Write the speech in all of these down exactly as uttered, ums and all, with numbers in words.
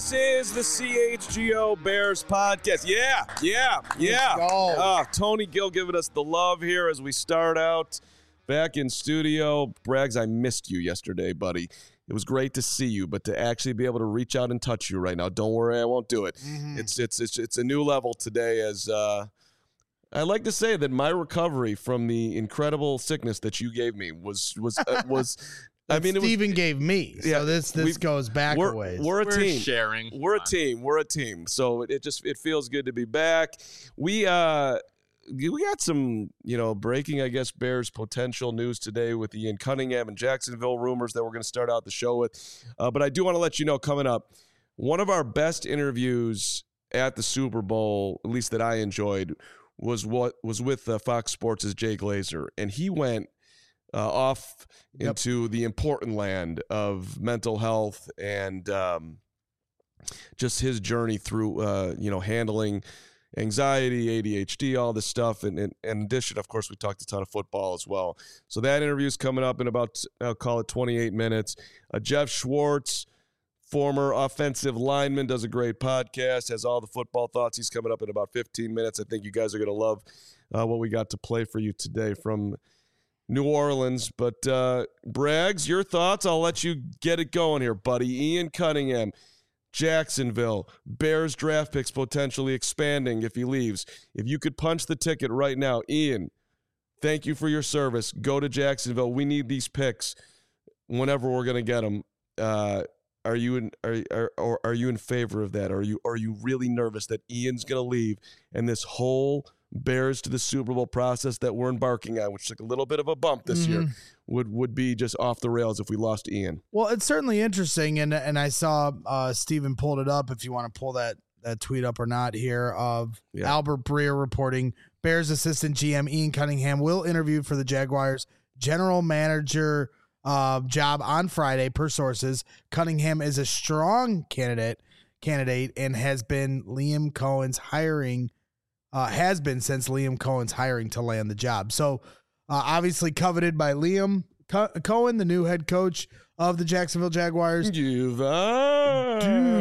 This is the C H G O Bears podcast. Yeah, yeah, yeah. Uh, Tony Gill giving us the love here as we start out back in studio. Braggs, I missed you yesterday, buddy. It was great to see you, but to actually be able to reach out and touch you right now, don't worry, I won't do it. Mm-hmm. It's it's it's it's a new level today. As uh, I like to say that my recovery from the incredible sickness that you gave me was was uh, was. I mean, Steven it was, gave me. So yeah, this this goes back we're, a ways. We're a we're team. Sharing. We're a team. We're a team. So it, it just it feels good to be back. We uh we got some, you know, breaking, I guess, Bears potential news today with Ian Cunningham and Jacksonville rumors that we're going to start out the show with. Uh, but I do want to let you know, coming up, one of our best interviews at the Super Bowl, at least that I enjoyed, was what was with uh, Fox Sports' Jay Glazer, and he went Uh, off yep. into the important land of mental health and um, just his journey through, uh, you know, handling anxiety, A D H D, all this stuff. And, and, and in addition, of course, we talked a ton of football as well. So that interview is coming up in about, I'll call it twenty-eight minutes. Uh, Jeff Schwartz, former offensive lineman, does a great podcast, has all the football thoughts. He's coming up in about fifteen minutes. I think you guys are going to love uh, what we got to play for you today from New Orleans. But uh, Braggs, your thoughts? I'll let you get it going here, buddy. Ian Cunningham, Jacksonville, Bears draft picks potentially expanding if he leaves. If you could punch the ticket right now, Ian, thank you for your service. Go to Jacksonville. We need these picks whenever we're going to get them. Uh, are you in? Are, are or are you in favor of that? Are you are you really nervous that Ian's going to leave and this whole Bears to the Super Bowl process that we're embarking on, which took a little bit of a bump this mm-hmm. year, would would be just off the rails if we lost Ian? Well, it's certainly interesting, and and I saw uh, Steven pulled it up. If you want to pull that that tweet up or not here of yeah. Albert Breer reporting Bears assistant G M Ian Cunningham will interview for the Jaguars general manager uh, job on Friday. Per sources, Cunningham is a strong candidate candidate and has been Liam Cohen's hiring. Uh, has been since Liam Cohen's hiring to land the job. So uh, obviously coveted by Liam Co- Cohen, the new head coach of the Jacksonville Jaguars. Duval.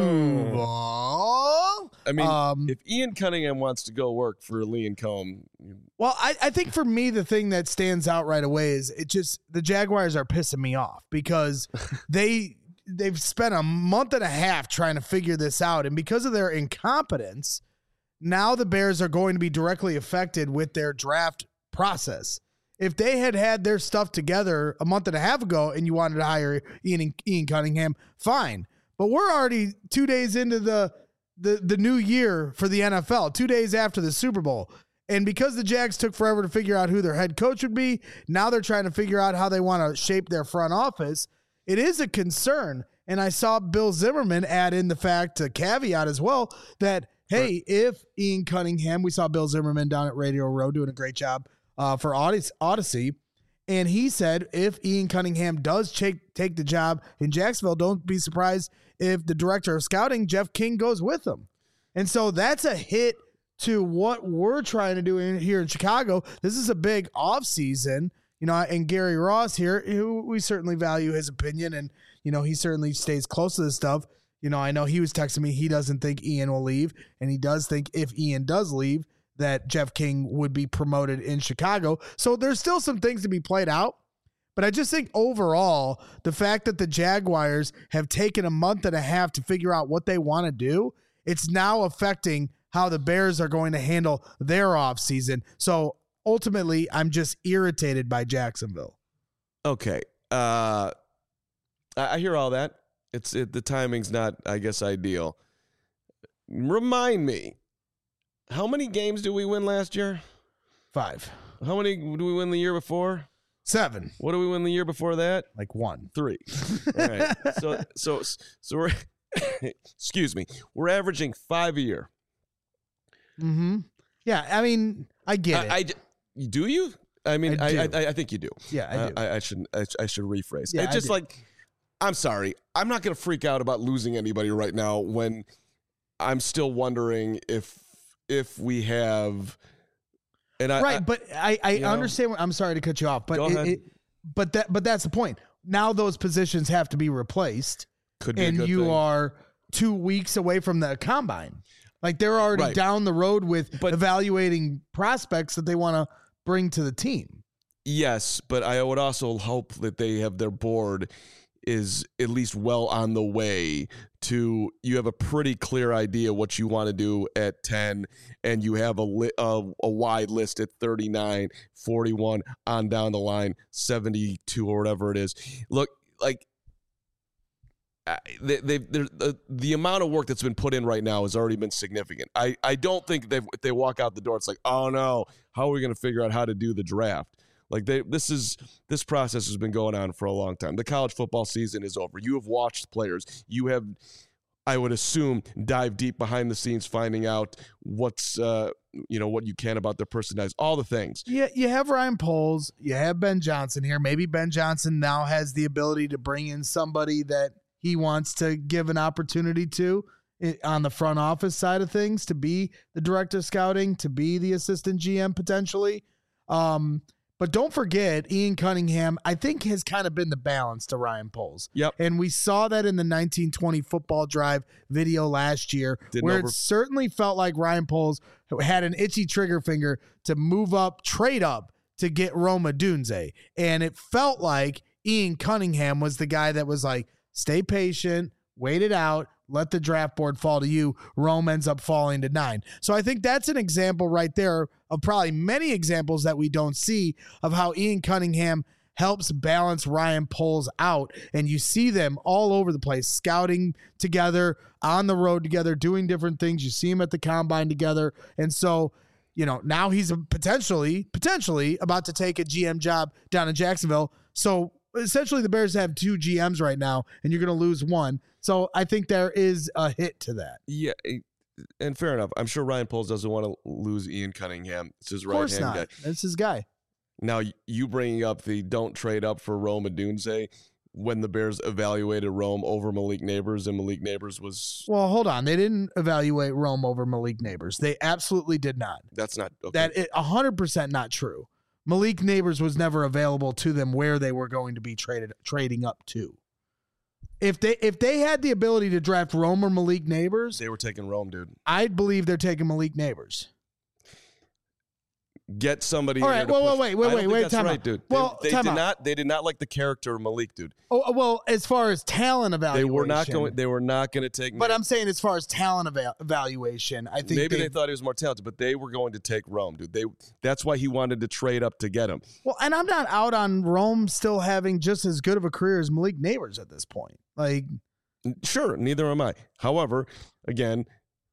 Duval. I mean, um, if Ian Cunningham wants to go work for Liam Cohen. Well, I, I think for me, the thing that stands out right away is it just the Jaguars are pissing me off because they they've spent a month and a half trying to figure this out. And because of their incompetence, now the Bears are going to be directly affected with their draft process. If they had had their stuff together a month and a half ago and you wanted to hire Ian, Ian Cunningham, fine. But we're already two days into the, the, the new year for the N F L, two days after the Super Bowl. And because the Jags took forever to figure out who their head coach would be, now they're trying to figure out how they want to shape their front office. It is a concern. And I saw Bill Zimmerman add in the fact, a caveat as well, that hey, if Ian Cunningham, we saw Bill Zimmerman down at Radio Row doing a great job uh, for Odyssey, and he said if Ian Cunningham does take, take the job in Jacksonville, don't be surprised if the director of scouting, Jeff King, goes with him. And so that's a hit to what we're trying to do in, here in Chicago. This is a big offseason, you know, and Gary Ross here, who we certainly value his opinion, and, you know, he certainly stays close to this stuff. You know, I know he was texting me. He doesn't think Ian will leave, and he does think if Ian does leave, that Jeff King would be promoted in Chicago. So there's still some things to be played out. But I just think overall, the fact that the Jaguars have taken a month and a half to figure out what they want to do, it's now affecting how the Bears are going to handle their offseason. So ultimately, I'm just irritated by Jacksonville. Okay. Uh, I hear all that. It's it, the timing's not, I guess, ideal. Remind me, how many games did we win last year? Five. How many did we win the year before? Seven. What did we win the year before that? Like one. Three. All right. So so so we're excuse me. We're averaging five a year. Mm-hmm. Yeah, I mean, I get I, it. I, do you? I mean, I I, I, I think you do. Yeah, I do. I, I should I, I should rephrase. Yeah, it's just I do. like, I'm sorry. I'm not going to freak out about losing anybody right now when I'm still wondering if if we have. And I, right, I, but I, I you understand. What, I'm sorry to cut you off, but Go it, ahead. it, but that but that's the point. Now those positions have to be replaced, could be a and good you thing. are two weeks away from the combine. Like they're already Right. down the road with But- evaluating prospects that they want to bring to the team. Yes, but I would also hope that they have their board is at least well on the way to, you have a pretty clear idea what you want to do at ten, and you have a, li- a, a wide list at thirty-nine, forty-one, on down the line, seventy-two or whatever it is. Look, like, I- they, they, the, the amount of work that's been put in right now has already been significant. I, I don't think they if they walk out the door, it's like, oh no, how are we going to figure out how to do the draft? Like they, this is this process has been going on for a long time. The college football season is over. You have watched players. You have, I would assume, dive deep behind the scenes, finding out what's uh, you know what you can about their personalities, all the things. Yeah, you have Ryan Poles, you have Ben Johnson here. Maybe Ben Johnson now has the ability to bring in somebody that he wants to give an opportunity to on the front office side of things, to be the director of scouting, to be the assistant G M potentially. Um, But don't forget, Ian Cunningham, I think, has kind of been the balance to Ryan Poles. Yep. And we saw that in the nineteen twenty football drive video last year, Didn't where over- it certainly felt like Ryan Poles had an itchy trigger finger to move up, trade up to get Rome Odunze. And it felt like Ian Cunningham was the guy that was like, stay patient, wait it out, let the draft board fall to you. Rome ends up falling to nine. So I think that's an example right there of probably many examples that we don't see of how Ian Cunningham helps balance Ryan Poles out. And you see them all over the place, scouting together, on the road together, doing different things. You see them at the combine together. And so, you know, now he's potentially, potentially about to take a G M job down in Jacksonville. So essentially the Bears have two G Ms right now, and you're going to lose one. So I think there is a hit to that. Yeah, and fair enough. I'm sure Ryan Poles doesn't want to lose Ian Cunningham. It's his Of course right-hand not. guy. That's his guy. Now, you bringing up the don't trade up for Rome Odunze when the Bears evaluated Rome over Malik Neighbors, and Malik Neighbors was... Well, hold on. They didn't evaluate Rome over Malik Neighbors. They absolutely did not. That's not... Okay. That is one hundred percent not true. Malik Neighbors was never available to them where they were going to be traded trading up to. If they if they had the ability to draft Rome or Malik Neighbors, They were taking Rome, dude. I'd believe they're taking Malik Neighbors. Get somebody. All in right, there to wait, push- wait, wait, I don't wait, think wait, That's time right, out. dude. Well, they, they time did out. not. They did not like the character of Malik, dude. Oh well, as far as talent They evaluation, were not going. They were not going to take. But Nate. I'm saying, as far as talent eva- evaluation, I think Maybe they, they thought he was more talented, but they were going to take Rome, dude. They. That's why he wanted to trade up to get him. Well, and I'm not out on Rome still having just as good of a career as Malik Neighbors at this point. Like, Sure, neither am I. However, again,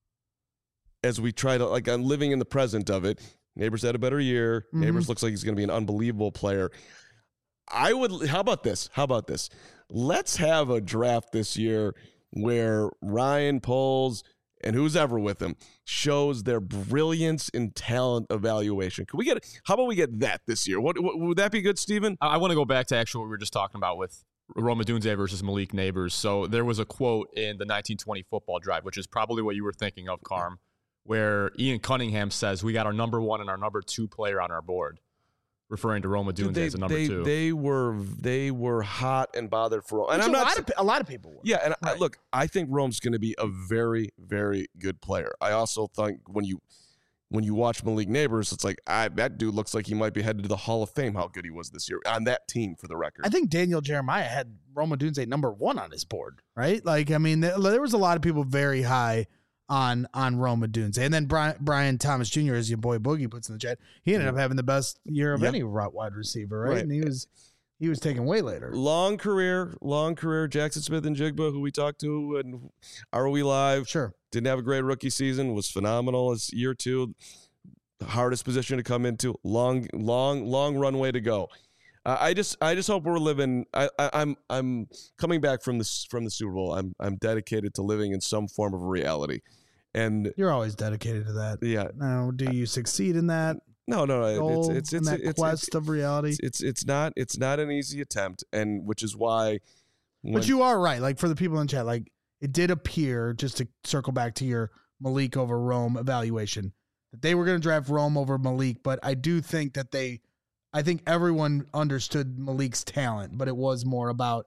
as we try to, like, I'm living in the present of it. Neighbors had a better year. Mhm. Neighbors looks like he's going to be an unbelievable player. I would. How about this? How about this? Let's have a draft this year where Ryan Poles and who's ever with him shows their brilliance in talent evaluation. Can we get? How about we get that this year? What, what would that be good, Steven? I, I want to go back to actually what we were just talking about with Rome Odunze versus Malik Neighbors. So there was a quote in the nineteen twenty football drive, which is probably what you were thinking of, Carm, where Ian Cunningham says, we got our number one and our number two player on our board, referring to Rome Odunze Dude, they, as a number they, two. they were they were hot and bothered for Rome. And which I'm a not lot sa- of pe- a lot of people were. Yeah, and I, Right. look, I think Rome's going to be a very, very good player. I also think when you when you watch Malik Neighbors, it's like I, that dude looks like he might be headed to the Hall of Fame. How good he was this year on that team, for the record. I think Daniel Jeremiah had Rome Odunze number one on his board, right? Like, I mean, there, there was a lot of people very high on on Rome Odunze, and then Brian, Brian Thomas Junior, as your boy Boogie puts in the chat, he ended up having the best year of Yep. any route wide receiver, right? Right. And he was he was taken way later. long career, long career. Jackson Smith and Jigba, who we talked to, and Are We Live? Sure. Didn't have a great rookie season. Was phenomenal as year two. The hardest position to come into. Long, long, long runway to go. Uh, I just, I just hope we're living. I, I, I'm, I'm coming back from this from the Super Bowl. I'm, I'm dedicated to living in some form of reality, and You're always dedicated to that. yeah, Now, do you succeed in that no, no, no. goal, It's, it's, in it's, that it's, it's, quest of reality? it's, it's, it's not, it's not an easy attempt, and which is why. When, But you are right. Like, for the people in chat, like, it did appear, just to circle back to your Malik over Rome evaluation, that they were going to draft Rome over Malik. But I do think that they, I think everyone understood Malik's talent, but it was more about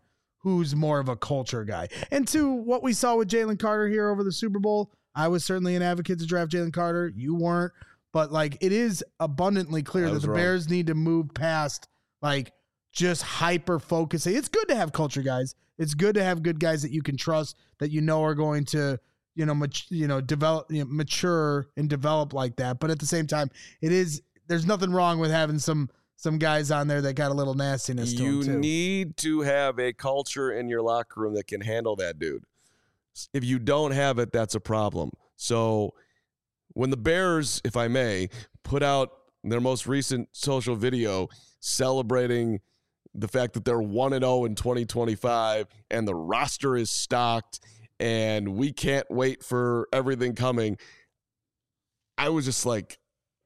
who's more of a culture guy. And two, what we saw with Jalen Carter here over the Super Bowl, I was certainly an advocate to draft Jalen Carter. You weren't. But, like, it is abundantly clear that the wrong. Bears need to move past, like, just hyper-focusing. It's good to have culture guys. It's good to have good guys that you can trust, that you know are going to, you know, mat- you know, develop, you know, mature and develop like that. But at the same time, it is there's nothing wrong with having some some guys on there that got a little nastiness to you them, too. You need to have a culture in your locker room that can handle that, dude. If you don't have it, that's a problem. So when the Bears, if I may, put out their most recent social video celebrating the fact that they're one and oh in twenty twenty-five and the roster is stocked and we can't wait for everything coming, I was just like,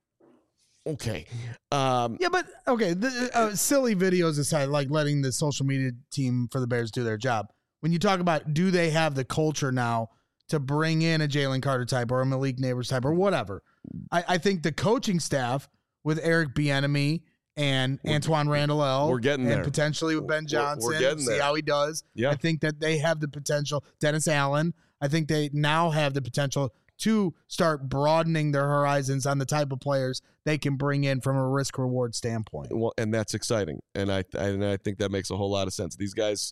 okay. Um, yeah, but, okay, the, uh, silly videos aside, like letting the social media team for the Bears do their job. When you talk about, do they have the culture now to bring in a Jalen Carter type or a Malik Neighbors type or whatever? I, I think the coaching staff with Eric Bieniemy and we're, Antoine Randall L. We're getting and there. potentially with Ben Johnson. We're, we're getting see there. how he does. Yeah. I think that they have the potential. Dennis Allen, I think they now have the potential to start broadening their horizons on the type of players they can bring in from a risk-reward standpoint. Well, and that's exciting. And I, I, and I think that makes a whole lot of sense. These guys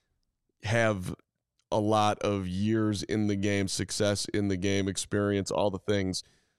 have a lot of years in the game, success in the game, experience, all the things.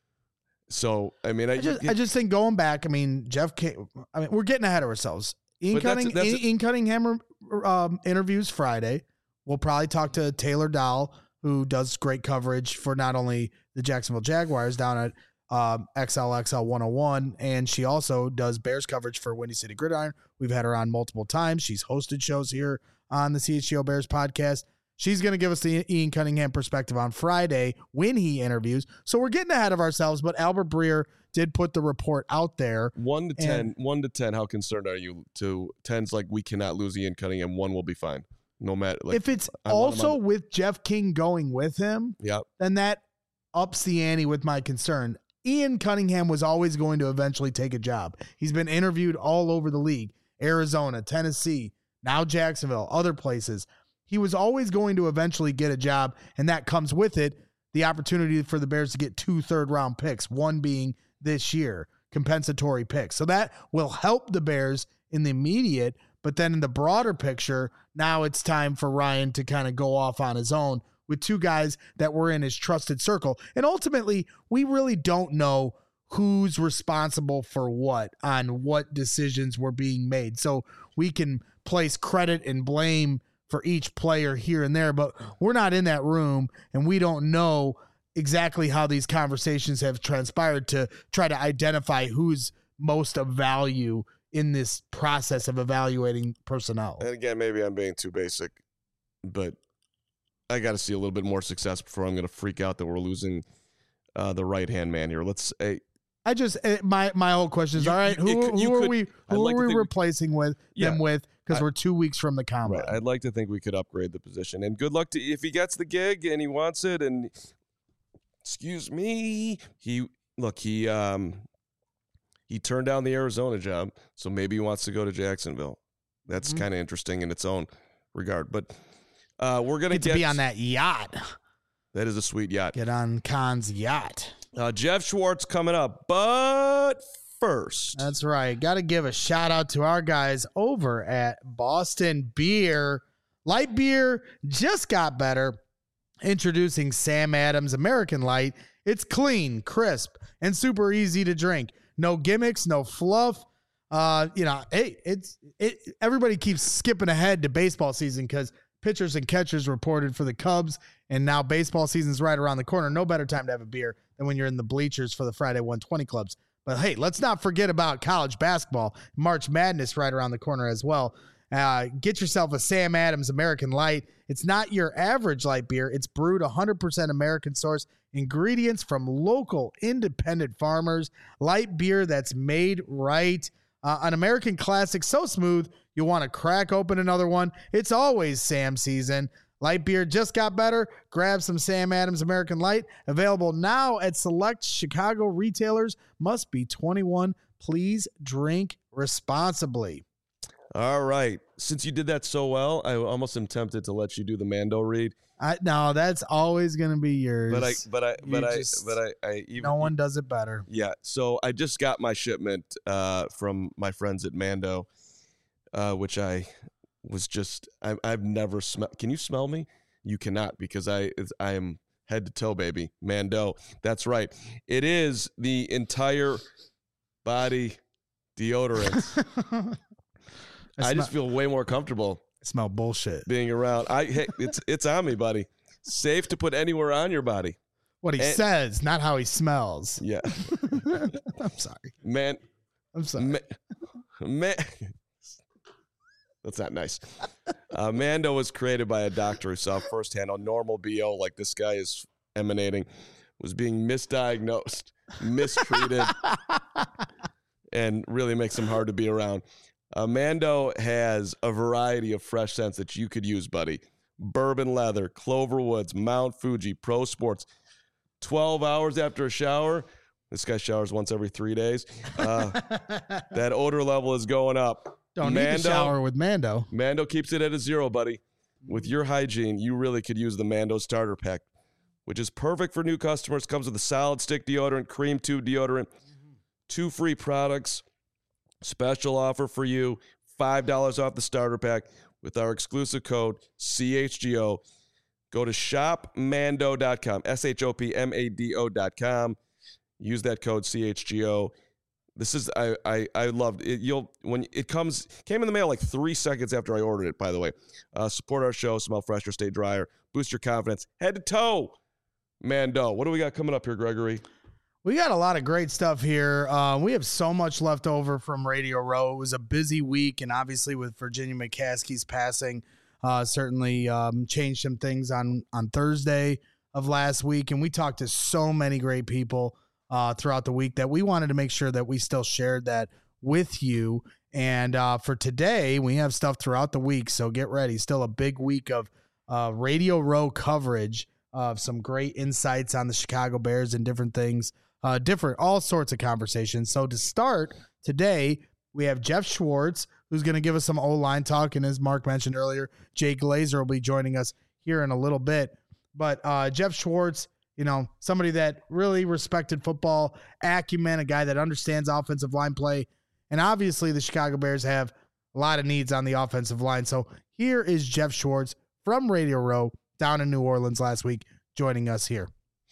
So, I mean, I, I just, it, I just think going back, I mean, Jeff, King, I mean, we're getting ahead of ourselves. Ian, Cunning, that's, that's Ian Cunningham um, interviews Friday. We'll probably talk to Taylor Dahl, who does great coverage for not only the Jacksonville Jaguars down at um, X L X L one oh one, and she also does Bears coverage for Windy City Gridiron. We've had her on multiple times. She's hosted shows here on the C H G O Bears podcast. She's going to give us the Ian Cunningham perspective on Friday when he interviews. So we're getting ahead of ourselves, but Albert Breer did put the report out there. One to ten, one to ten, how concerned are you? To ten's like, we cannot lose Ian Cunningham. One will be fine. No matter. Like, if it's I also with Jeff King going with him, yeah, then that ups the ante with my concern. Ian Cunningham was always going to eventually take a job. He's been interviewed all over the league, Arizona, Tennessee, now Jacksonville, other places. He was always going to eventually get a job, and that comes with it the opportunity for the Bears to get two third-round picks, one being this year, compensatory picks. So that will help the Bears in the immediate, but then in the broader picture, now it's time for Ryan to kind of go off on his own with two guys that were in his trusted circle. And ultimately, we really don't know who's responsible for what on what decisions were being made. So we can place credit and blame for each player here and there, but we're not in that room and we don't know exactly how these conversations have transpired to try to identify who's most of value in this process of evaluating personnel. And again, maybe I'm being too basic, but I got to see a little bit more success before I'm going to freak out that we're losing uh, the right-hand man here. Let's say, I just my my whole question is, you, all right, who, it, who are could, we who like are we replacing with yeah, them with? Because we're two weeks from the combine. Right. I'd like to think we could upgrade the position. And good luck to if he gets the gig and he wants it. And excuse me, he look he um he turned down the Arizona job, so maybe he wants to go to Jacksonville. That's mm-hmm. kind of interesting in its own regard. But uh, we're gonna get, get to be on that yacht. That is a sweet yacht. Get on Khan's yacht. Uh, Jeff Schwartz coming up, but first. That's right. Got to give a shout out to our guys over at Boston Beer. Light beer just got better. Introducing Sam Adams American Light. It's clean, crisp, and super easy to drink. No gimmicks, no fluff. Uh, you know, hey, it's it. Everybody keeps skipping ahead to baseball season because pitchers and catchers reported for the Cubs, and now baseball season's right around the corner. No better time to have a beer than when you're in the bleachers for the Friday one twenty clubs. But hey, let's not forget about college basketball. March Madness right around the corner as well. Uh, get yourself a Sam Adams American Light. It's not your average light beer. It's brewed one hundred percent American source ingredients from local independent farmers. Light beer that's made right. Uh, an American classic so smooth, you'll want to crack open another one. It's always Sam season. Light beer just got better. Grab some Sam Adams American Light. Available now at select Chicago retailers. Must be twenty-one. Please drink responsibly. All right. Since you did that so well, I almost am tempted to let you do the Mando read. I no, that's always gonna be yours. But I, but I, You but I, just- but I, I even no one does it better. Yeah. So I just got my shipment uh, from my friends at Mando, uh, which I was just I, I've never smelled. Can you smell me? You cannot, because I it's, I am head to toe, baby. Mando. That's right. It is the entire body deodorant. I, I, just smell, feel way more comfortable I smell bullshit. being around. I hey, it's it's on me, buddy. Safe to put anywhere on your body. What he And- says, not how he smells. Yeah, I'm sorry. man. I'm sorry. Man, man. That's not nice. Uh, Mando was created by a doctor who saw firsthand how normal B O, like this guy is emanating, was being misdiagnosed, mistreated, and really makes him hard to be around. Uh, Mando has a variety of fresh scents that you could use, buddy. Bourbon leather, Clover Woods, Mount Fuji, Pro Sports. twelve hours after a shower. This guy showers once every three days. Uh, that odor level is going up. Don't need to shower with Mando. Mando keeps it at a zero, buddy. With your hygiene, you really could use the Mando starter pack, which is perfect for new customers. Comes with a solid stick deodorant, cream tube deodorant, two free products. Special offer for you, five dollars off the starter pack with our exclusive code C H G O. Go to shop mando dot com, S H O P M A D O dot com. Use that code C H G O. This is I I I loved it. You'll when it comes came in the mail like three seconds after I ordered it. By the way, uh, support our show, smell fresher, stay drier, boost your confidence, head to toe. Mando, what do we got coming up here, Gregory? We got a lot of great stuff here. Uh, we have so much left over from Radio Row. It was a busy week, and obviously with Virginia McCaskey's passing, uh, certainly um, changed some things on on Thursday of last week. And we talked to so many great people uh, throughout the week that we wanted to make sure that we still shared that with you. And uh, for today, we have stuff throughout the week, so get ready. Still a big week of uh, Radio Row coverage of some great insights on the Chicago Bears and different things. Uh, different, all sorts of conversations. So to start today, we have Jeff Schwartz, who's going to give us some O-line talk. And as Mark mentioned earlier, Jay Glazer will be joining us here in a little bit. But uh, Jeff Schwartz, you know, somebody that really respected football acumen, a guy that understands offensive line play. And obviously the Chicago Bears have a lot of needs on the offensive line. So here is Jeff Schwartz from Radio Row down in New Orleans last week, joining us here.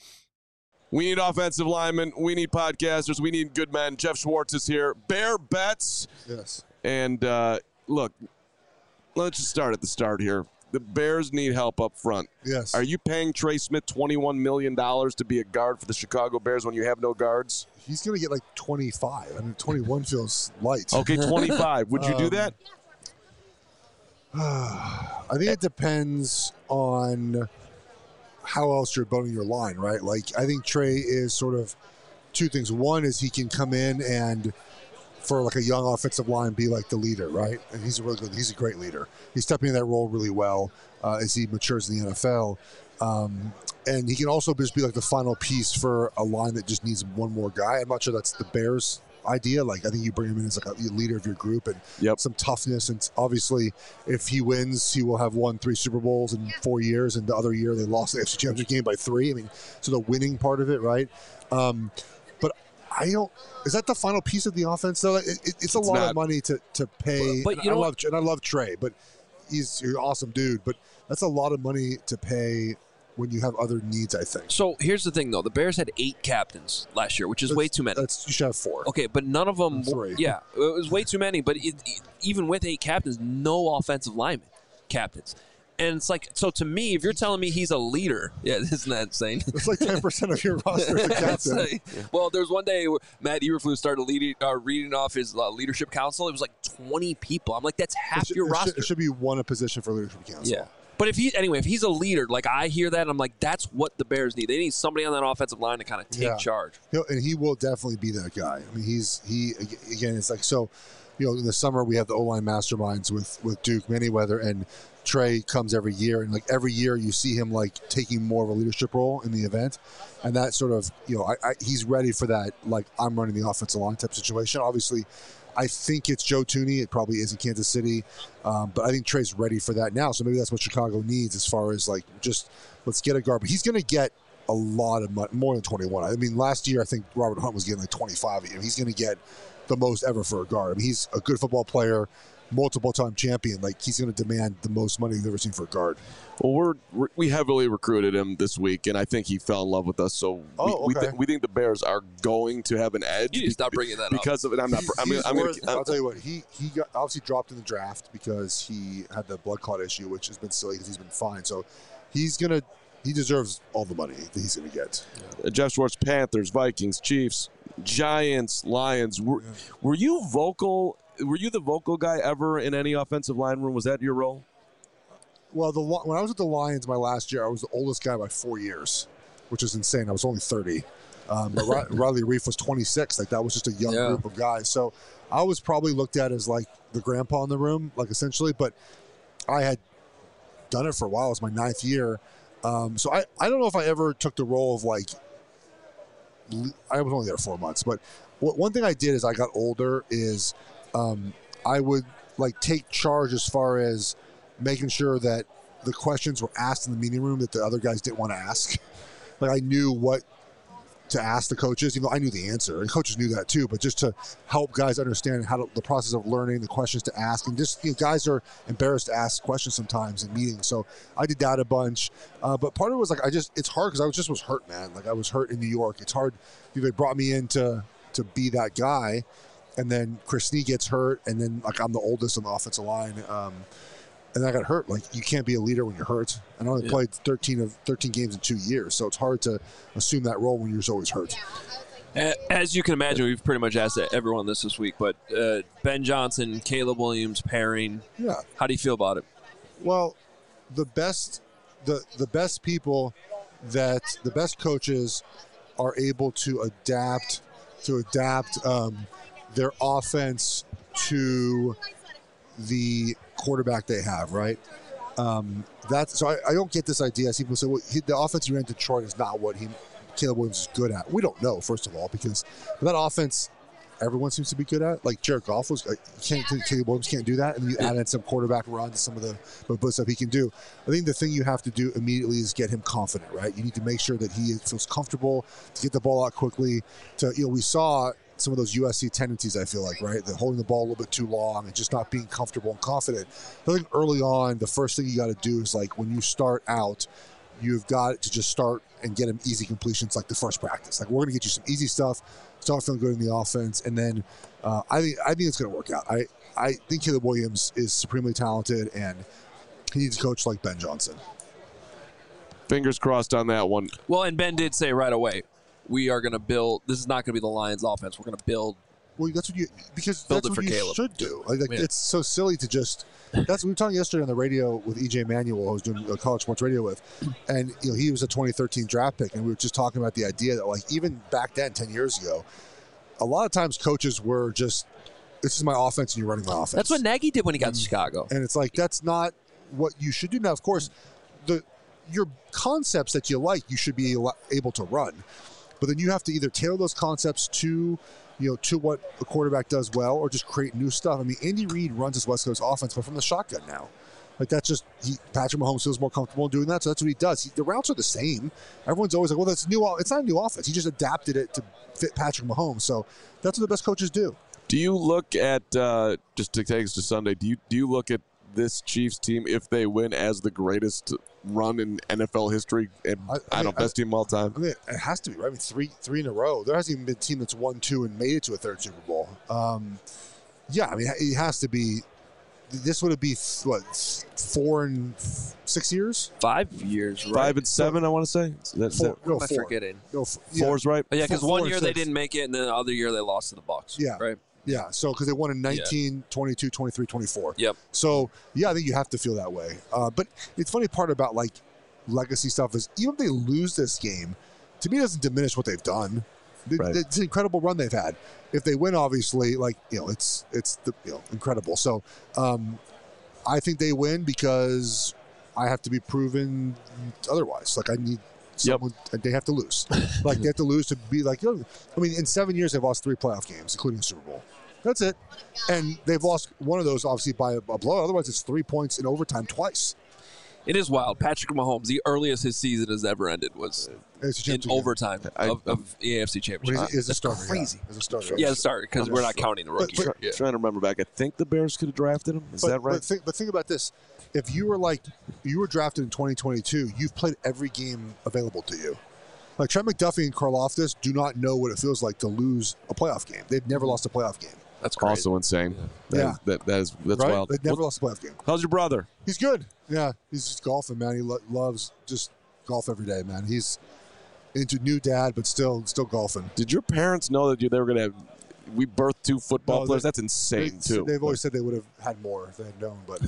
We need offensive linemen. We need podcasters. We need good men. Jeff Schwartz is here. Bear Bets. Yes. And uh, look, let's just start at the start here. The Bears need help up front. Yes. Are you paying Trey Smith twenty-one million dollars to be a guard for the Chicago Bears when you have no guards? He's going to get like twenty-five. I mean, twenty-one feels light. Okay, twenty-five. Would you do Um, that? I think it depends on how else you're building your line, right? Like, I think Trey is sort of two things. One is he can come in and, for like a young offensive line, be like the leader, right? And he's a really good, he's a great leader. He's stepping in that role really well uh, as he matures in the N F L. Um, and he can also just be like the final piece for a line that just needs one more guy. I'm not sure that's the Bears' idea. Like, I think you bring him in as like a leader of your group and Yep. some toughness. And obviously, if he wins, he will have won three Super Bowls in four years. And the other year, they lost the A F C Championship game by three. I mean, so the winning part of it, right? Um, but I don't. Is that the final piece of the offense? Though it, it, it's a It's lot not. of money to to pay. But and you I know love and I love Trey, but he's, he's an awesome dude. But that's a lot of money to pay when you have other needs, I think. So here's the thing, though: the Bears had eight captains last year, which is That's- way too many. That's you should have four. Okay, but none of them. Three. Yeah, it was way too many. But it, it- even with eight captains, no offensive linemen captains. And it's like, so to me, if you're telling me he's a leader, yeah, isn't that insane? It's like ten percent of your roster is a It's captain. like- well, there was one day where Matt Eberflus started leading, uh, reading off his uh, leadership council. It was like twenty people. I'm like, that's half It should, your it roster. Should, it should be one a position for leadership council. Yeah. But if he anyway, if he's a leader, like I hear that, I'm like, that's what the Bears need. They need somebody on that offensive line to kind of take Yeah. charge. He'll, and he will definitely be that guy. I mean, he's he again. It's like so. You you know, in the summer we have the O-line masterminds with, with Duke Manyweather, and Trey comes every year. And, like, every year you see him, like, taking more of a leadership role in the event. And that sort of, you know, I, I, he's ready for that, like, I'm running the offensive line type situation. Obviously, I think it's Joe Thuney. It probably is in Kansas City. Um, but I think Trey's ready for that now. So maybe that's what Chicago needs as far as, like, just let's get a guard. But he's going to get a lot of money, more than twenty-one. I mean, last year I think Robert Hunt was getting like twenty-five a year. He's going to get the most ever for a guard. I mean, he's a good football player, multiple-time champion. Like, he's going to demand the most money you've ever seen for a guard. Well, we're, we're we heavily recruited him this week, and I think he fell in love with us. So Oh, we we, okay. th- we think the Bears are going to have an edge. You need to stop bringing that up. because of it. I'm not. I'm, He's I'm, worth- gonna, I'll tell you what, he he got obviously dropped in the draft because he had the blood clot issue, which has been silly because he's been fine. So he's going to he deserves all the money that he's going to get. Uh, Jeff Schwartz, Panthers, Vikings, Chiefs, Giants, Lions. Were, Yeah. were you vocal? Were you the vocal guy ever in any offensive line room? Was that your role? Well, the Li- when I was at the Lions my last year, I was the oldest guy by four years, which is insane. I was only thirty. Um, but Ri- Riley Reif was twenty-six. Like, that was just a young Yeah. group of guys. So I was probably looked at as like the grandpa in the room, like essentially. But I had done it for a while. It was my ninth year. Um, so I, I don't know if I ever took the role of like, le- I was only there four months. But what, one thing I did as I got older is um, I would like take charge as far as making sure that the questions were asked in the meeting room that the other guys didn't want to ask. Like, I knew what to ask the coaches, even though I knew the answer, and coaches knew that too. But just to help guys understand how to, the process of learning, the questions to ask, and just, you know, guys are embarrassed to ask questions sometimes in meetings. So I did that a bunch. Uh, but part of it was like I just it's hard because I was just was hurt, man. Like, I was hurt in New York. It's hard. You know, they brought me in to to be that guy, and then Chris Snee gets hurt, and then like I'm the oldest on the offensive line. Um, And I got hurt. Like, you can't be a leader when you're hurt. And I only Yeah. played thirteen of thirteen games in two years, so it's hard to assume that role when you're always hurt. A- As you can imagine, we've pretty much asked everyone this this week, but uh, Ben Johnson, Caleb Williams pairing, Yeah. how do you feel about it? Well, the best, the the best people that the best coaches are able to adapt to adapt um, their offense to the quarterback they have, right? Um, that's so I, I don't get this idea. I see people say, well, he, the offense he ran in Detroit is not what he Caleb Williams is good at. We don't know, first of all, because that offense everyone seems to be good at. Like, Jared Goff was, uh, can't, Caleb Williams can't do that, and you add in some quarterback run to some of the, the stuff he can do. I think the thing you have to do immediately is get him confident, right? You need to make sure that he feels comfortable to get the ball out quickly. To you know, we saw some of those U S C tendencies, I feel like, right? The holding the ball a little bit too long and just not being comfortable and confident. I think early on, the first thing you got to do is, like, when you start out, you've got to just start and get him easy completions like the first practice. Like, we're going to get you some easy stuff, start feeling good in the offense, and then uh, I think I think it's going to work out. I, I think Caleb Williams is supremely talented, and he needs a coach like Ben Johnson. Fingers crossed on that one. Well, and Ben did say right away, we are going to build, this is not going to be the Lions offense. We're going to build. Well, that's what you because Build that's it what for you Caleb. should do. Like, like, Yeah. it's so silly to just. That's we were talking yesterday on the radio with E J Manuel, who was doing uh, college sports radio with, and you know he was a twenty thirteen draft pick, and we were just talking about the idea that, like, even back then, ten years ago, a lot of times coaches were just, this is my offense, and you're running my offense. That's what Nagy did when he got to Chicago. And it's like, that's not what you should do. Now, of course, the your concepts that you like, you should be al- able to run. But then you have to either tailor those concepts to, you know, to what a quarterback does well, or just create new stuff. I mean, Andy Reid runs his West Coast offense, but from the shotgun now. Like, that's just, he, Patrick Mahomes feels more comfortable doing that, so that's what he does. He, the routes are the same. Everyone's always like, well, that's new. It's not a new offense. He just adapted it to fit Patrick Mahomes. So that's what the best coaches do. Do you look at uh, just to take us to Sunday? Do you do you look at this Chiefs team, if they win, as the greatest run in N F L history? And I- I I, don't know, mean, best team of all time. I mean, it has to be, right? I mean, three three in a row. There hasn't even been a team that's won two and made it to a third Super Bowl. Um, yeah, I mean, it has to be. This would be, what, four and six years? Five years, right? Five and seven, I want to say. Is that, is Four. that No, What am I four. forgetting? No, f- yeah. four's right? Oh, yeah, because Four- one four year and they six. didn't make it, and then the other year they lost to the Bucks. Yeah. Right? Yeah, so because they won in nineteen, twenty-two, twenty-three, twenty-four. Yep. So, yeah, I think you have to feel that way. Uh, but it's funny part about, like, legacy stuff is even if they lose this game, to me it doesn't diminish what they've done. Right. It's an incredible run they've had. If they win, obviously, like you know, it's it's the, you know, incredible. So um, I think they win because I have to be proven otherwise. Like I need someone. Yep. They have to lose. Like they have to lose to be like. You know, I mean, in seven years they've lost three playoff games, including the Super Bowl. That's it. And they've lost one of those, obviously, by a, a blow. Otherwise, it's three points in overtime twice. It is wild. Patrick Mahomes, the earliest his season has ever ended was in overtime I, of, of the A F C Championship. Is a starter? Crazy. Yeah. As a starter. Yeah, the starter, because we're not counting the rookies. But, but, yeah. Trying to remember back. I think the Bears could have drafted him. Is but, that right? But think, but think about this. If you were like, you were drafted in twenty twenty-two, you've played every game available to you. Like Trent McDuffie and Karlaftis do not know what it feels like to lose a playoff game. They've never lost a playoff game. That's crazy. Also insane. That Yeah. is, that, that is that's right? wild. They've never Well, lost a playoff game. how's your brother? He's good. Yeah, he's just golfing, man. He lo- loves just golf every day, man. He's into new dad, but still still golfing. Did your parents know that you, they were going to have – we birthed two football No, players? they- That's insane, They, too. they've always said they would have had more if they had known, but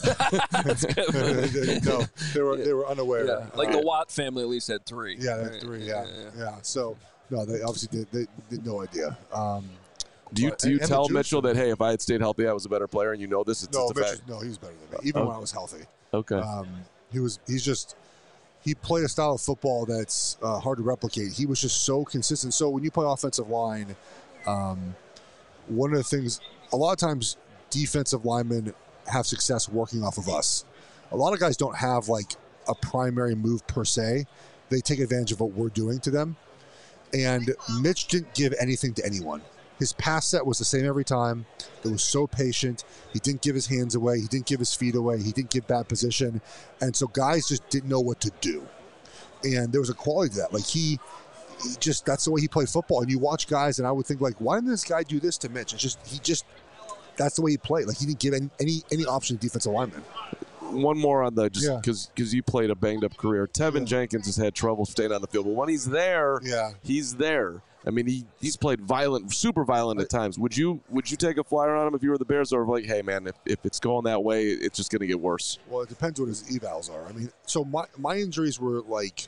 no, they were they were unaware. Yeah, like Uh, the Watt family at least had three. yeah, they had Right. three. Yeah, yeah. So no, they obviously did. They did no idea. Um, do you, but- do you and the tell juice- Mitchell that, hey, if I had stayed healthy, I was a better player, and you know this? It's, No, it's a Mitch fact. was, no, he was better than me, even Oh. when I was healthy. Okay. Um, he was. He's just. He played a style of football that's uh, hard to replicate. He was just so consistent. So when you play offensive line, um, one of the things, a lot of times, defensive linemen have success working off of us. A lot of guys don't have like a primary move per se. They take advantage of what we're doing to them. And Mitch didn't give anything to anyone. His pass set was the same every time. It was so patient. He didn't give his hands away. He didn't give his feet away. He didn't give bad position. And so guys just didn't know what to do. And there was a quality to that. Like he, he just, that's the way he played football. And you watch guys and I would think like, why didn't this guy do this to Mitch? It's just, he just, that's the way he played. Like he didn't give any, any, any option to defensive linemen. One more on the just Yeah. because because you played a banged up career. Tevin Yeah. Jenkins has had trouble staying on the field, but when he's there, Yeah. he's there. I mean, he he's played violent, super violent at times. Would you would you take a flyer on him if you were the Bears, or like, hey man, if, if it's going that way, it's just going to get worse? Well, it depends what his evals are. I mean, so my, my injuries were like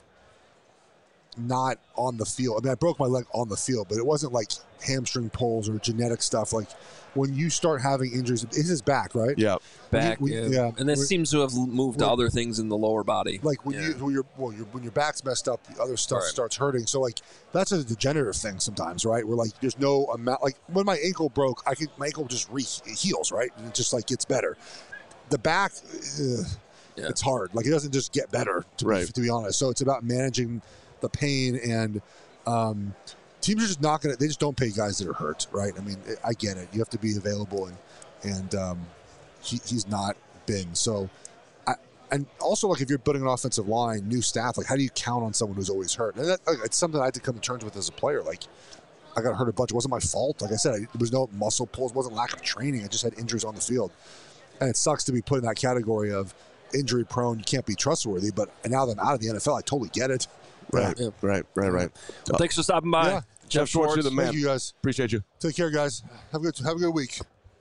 not on the field. I mean, I broke my leg on the field, but it wasn't like hamstring pulls or genetic stuff. Like when you start having injuries, it's his back, right? Yeah, Back, We- we- yeah. yeah. And this We- seems to have moved to we- other things in the lower body. Like when Yeah. you when your well, your when your back's messed up, the other stuff Right. starts hurting. So like that's a degenerative thing sometimes, right? Where like there's no amount. Like when my ankle broke, I could my ankle just re it heals, right? And it just like gets better. The back, ugh, Yeah. it's hard. Like it doesn't just get better. To be, Right. to be honest, so it's about managing the pain and. Um, teams are just not going to, they just don't pay guys that are hurt, right? I mean, I get it. You have to be available, and, and um, he, he's not been. So, I, and also, like, if you're building an offensive line, new staff, like, how do you count on someone who's always hurt? And that, like, it's something I had to come to terms with as a player. Like, I got hurt a bunch. It wasn't my fault. Like I said, I, there was no muscle pulls. It wasn't lack of training. I just had injuries on the field. And it sucks to be put in that category of injury prone. You can't be trustworthy. But now that I'm out of the N F L, I totally get it. right, Yeah. right, right, right. Well, thanks for stopping by. Yeah. Jeff Schwartz, you're the man. Thank you, guys. Appreciate you. Take care, guys. Have a good have a good week.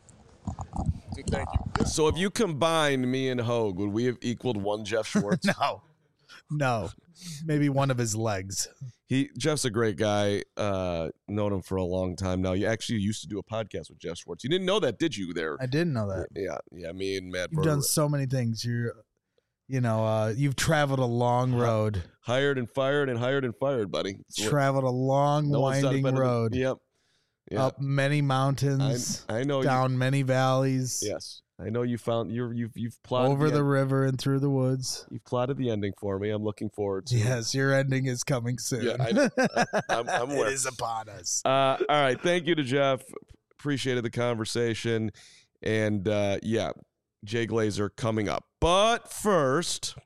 Thank you. So if you combined me and Hogue, would we have equaled one Jeff Schwartz? No, no, maybe one of his legs. He Jeff's a great guy. Uh, known him for a long time now. You actually used to do a podcast with Jeff Schwartz. You didn't know that, did you? There. I didn't know that. Yeah, yeah. Me and Matt. You've Berger done so many things. You're, you know, uh, you've traveled a long road. hired and fired and hired and fired, buddy. It's what- Traveled a long, no one's done it winding better than- road. Yep. Yeah. Up many mountains, I, I know. down many valleys, You, yes, I know. You found you're you've you've plotted over the end- river and through the woods. You've plotted the ending for me. I'm looking forward to. it. Yes, your ending is coming soon. Yeah, I know. I'm- I'm aware. It is upon us. Uh, all right. Thank you to Jeff. Appreciated the conversation. And uh, yeah, Jay Glazer coming up. But first,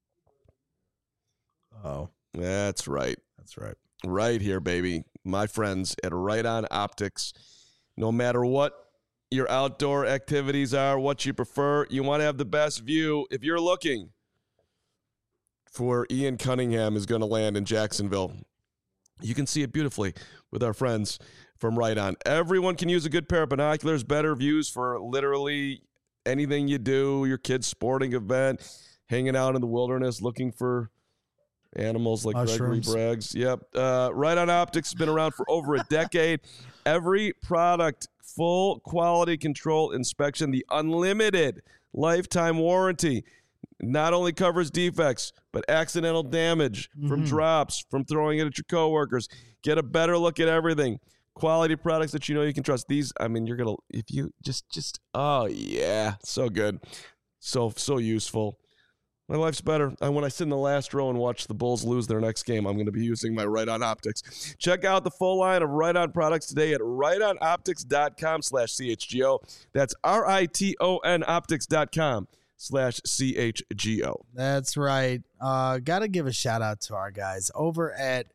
Oh, that's right. that's right. Right here, baby. My friends at Right On Optics. No matter what your outdoor activities are, what you prefer, you want to have the best view. If you're looking for where Ian Cunningham is going to land in Jacksonville, you can see it beautifully with our friends from Right On. Everyone can use a good pair of binoculars, better views for literally anything you do, your kid's sporting event, hanging out in the wilderness, looking for Animals like Mushrooms. Gregory Braggs. Yep. Uh, Right On Optics has been around for over a decade. Every product, full quality control inspection, the unlimited lifetime warranty not only covers defects, but accidental damage mm-hmm. from drops, from throwing it at your coworkers. Get a better look at everything. Quality products that you know you can trust. These, I mean, you're going to, if you just, just, oh yeah, so good. So, so useful. My life's better. And when I sit in the last row and watch the Bulls lose their next game, I'm going to be using my Right On Optics. Check out the full line of Right On products today at rightonoptics.com slash CHGO. That's R-I-T-O-N optics.com slash C-H-G-O. That's right. Uh, got to give a shout out to our guys over at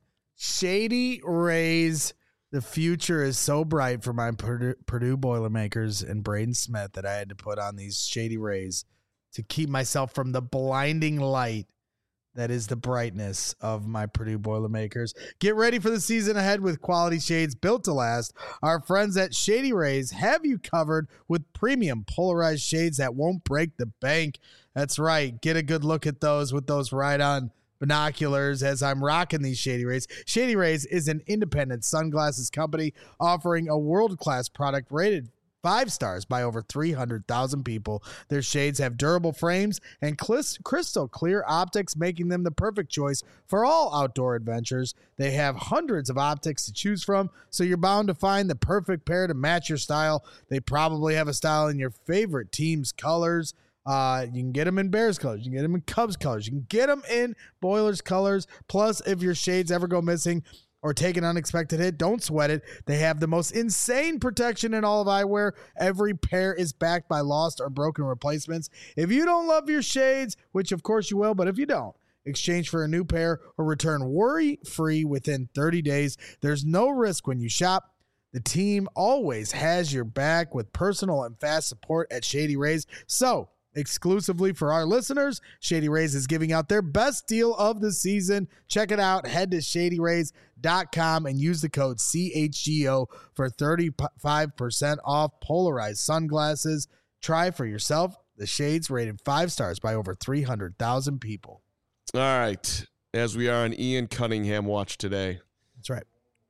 Shady Rays. The future is so bright for my Purdue, Purdue Boilermakers and Braden Smith that I had to put on these Shady Rays to keep myself from the blinding light that is the brightness of my Purdue Boilermakers. Get ready for the season ahead with quality shades built to last. Our friends at Shady Rays have you covered with premium polarized shades that won't break the bank. That's right. Get a good look at those with those Right On binoculars as I'm rocking these Shady Rays. Shady Rays is an independent sunglasses company offering a world-class product rated five stars by over three hundred thousand people. Their shades have durable frames and crystal clear optics, making them the perfect choice for all outdoor adventures. They have hundreds of optics to choose from, so you're bound to find the perfect pair to match your style. They probably have a style in your favorite team's colors. Uh, you can get them in Bears colors. You can get them in Cubs colors. You can get them in Boilers colors. Plus, if your shades ever go missing or take an unexpected hit, don't sweat it. They have the most insane protection in all of eyewear. Every pair is backed by lost or broken replacements. If you don't love your shades, which of course you will, but if you don't, exchange for a new pair or return worry-free within thirty days. There's no risk when you shop. The team always has your back with personal and fast support at Shady Rays. So, exclusively for our listeners, Shady Rays is giving out their best deal of the season. Check it out. Head to shady rays dot com and use the code C H G O for thirty-five percent off polarized sunglasses. Try for yourself the shades rated five stars by over three hundred thousand people. All right. As we are on Ian Cunningham watch today. That's right.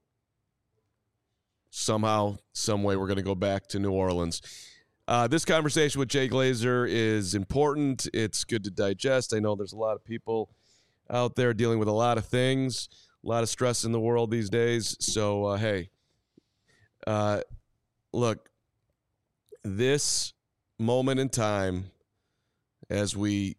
Somehow, some way, we're going to go back to New Orleans. Uh, this conversation with Jay Glazer is important. It's good to digest. I know there's a lot of people out there dealing with a lot of things, a lot of stress in the world these days. So, uh, hey, uh, look, this moment in time as we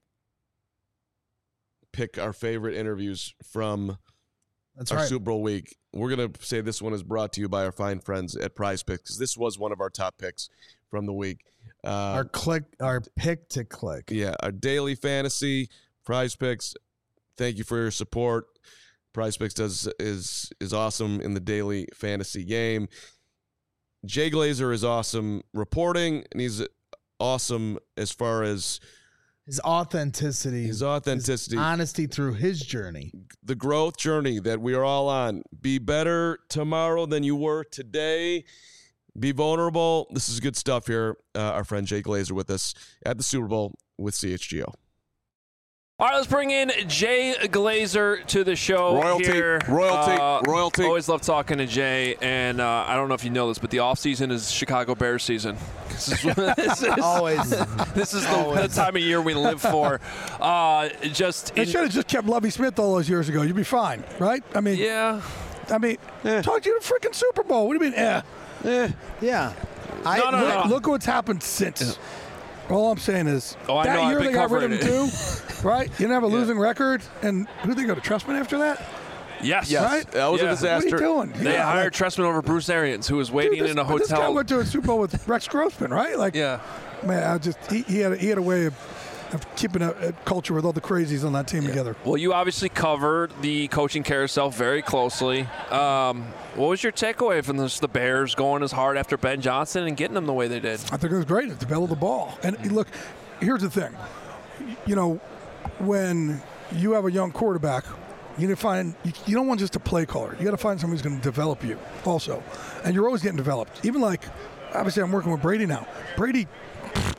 pick our favorite interviews from That's our right. Super Bowl week, we're going to say this one is brought to you by our fine friends at Prize Picks, because this was one of our top picks from the week. Uh, Our click, our pick to click. yeah, our daily fantasy, Prize Picks. Thank you for your support. Prize Picks does is is awesome in the daily fantasy game. Jay Glazer is awesome reporting, and he's awesome as far as His authenticity. his authenticity, his honesty through his journey. the growth journey that we are all on. Be better tomorrow than you were today. Be vulnerable. This is good stuff here. Uh, our friend Jay Glazer with us at the Super Bowl with C H G O. All right, let's bring in Jay Glazer to the show. Royalty, here. royalty, Uh, royalty. Always love talking to Jay, and uh, I don't know if you know this, but the off season is Chicago Bears season. This is, this is, Always. this is the, the time of year we live for. Uh, just They in, should have just kept Lovie Smith all those years ago. You'd be fine, right? I mean, yeah. I mean, talk to you the freaking Super Bowl. What do you mean? Eh. Yeah. I, No, no, look, no. look what's happened since. All I'm saying is Oh, I that know, I've year been they got rid of him covering too, right? You didn't have a losing record, and who did they go to Trustman after that? Yes. Yes, Right? that was Yeah. a disaster. What are you doing? They Yeah, hired like, Trestman over Bruce Arians, who was waiting dude, this, in a but This guy hotel. went to a Super Bowl with Rex Grossman, right? Like, Yeah. man, I just he, he had a, he had a way of, of keeping a, a culture with all the crazies on that team together. Well, you obviously covered the coaching carousel very closely. Um, what was your takeaway from this, the Bears going as hard after Ben Johnson and getting them the way they did? I think it was great at the bell of the ball. And look, here's the thing. You know, when you have a young quarterback, you need to find you, you don't want just a play caller. You got to find someone who's going to develop you also. And you're always getting developed. Even like, obviously, I'm working with Brady now. Brady,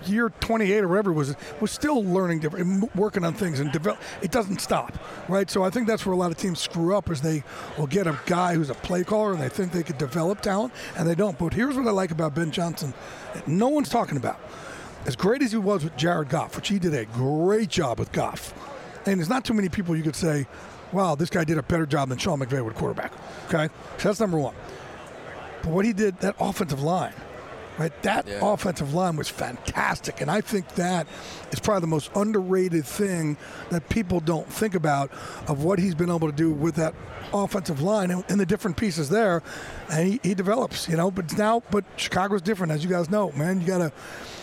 year twenty-eight or whatever it was was still learning different, working on things and develop. It doesn't stop, right? So I think that's where a lot of teams screw up is they will get a guy who's a play caller and they think they could develop talent and they don't. But here's what I like about Ben Johnson: that no one's talking about. As great as he was with Jared Goff, which he did a great job with Goff, and there's not too many people you could say, wow, this guy did a better job than Sean McVay with quarterback. Okay, so that's number one. But what he did, that offensive line, right? That yeah. offensive line was fantastic, and I think that is probably the most underrated thing that people don't think about of what he's been able to do with that offensive line and, and the different pieces there. And he, he develops, you know. But now, but Chicago's different, as you guys know, man. You gotta.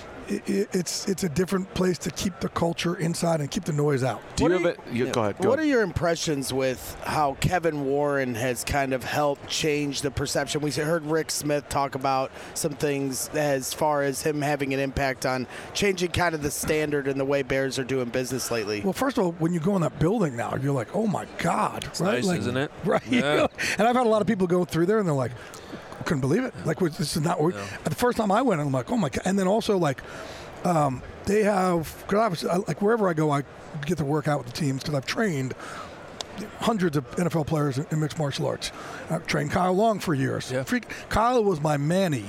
It, it's it's a different place to keep the culture inside and keep the noise out. Do you have it? You, yeah. Go ahead. Go what ahead. are your impressions with how Kevin Warren has kind of helped change the perception? We heard Rick Smith talk about some things as far as him having an impact on changing kind of the standard and the way Bears are doing business lately. Well, first of all, when you go in that building now, you're like, oh my God, it's right? Nice, like, isn't it? Right. Yeah. And I've had a lot of people go through there and they're like, couldn't believe it. Like, this is not. Yeah. The first time I went, I'm like, oh my God. And then also like. Um, they have, because obviously, I, like wherever I go, I get to work out with the teams because I've trained hundreds of N F L players in, in mixed martial arts. I've trained Kyle Long for years. Yeah. Freak, Kyle was my Manny,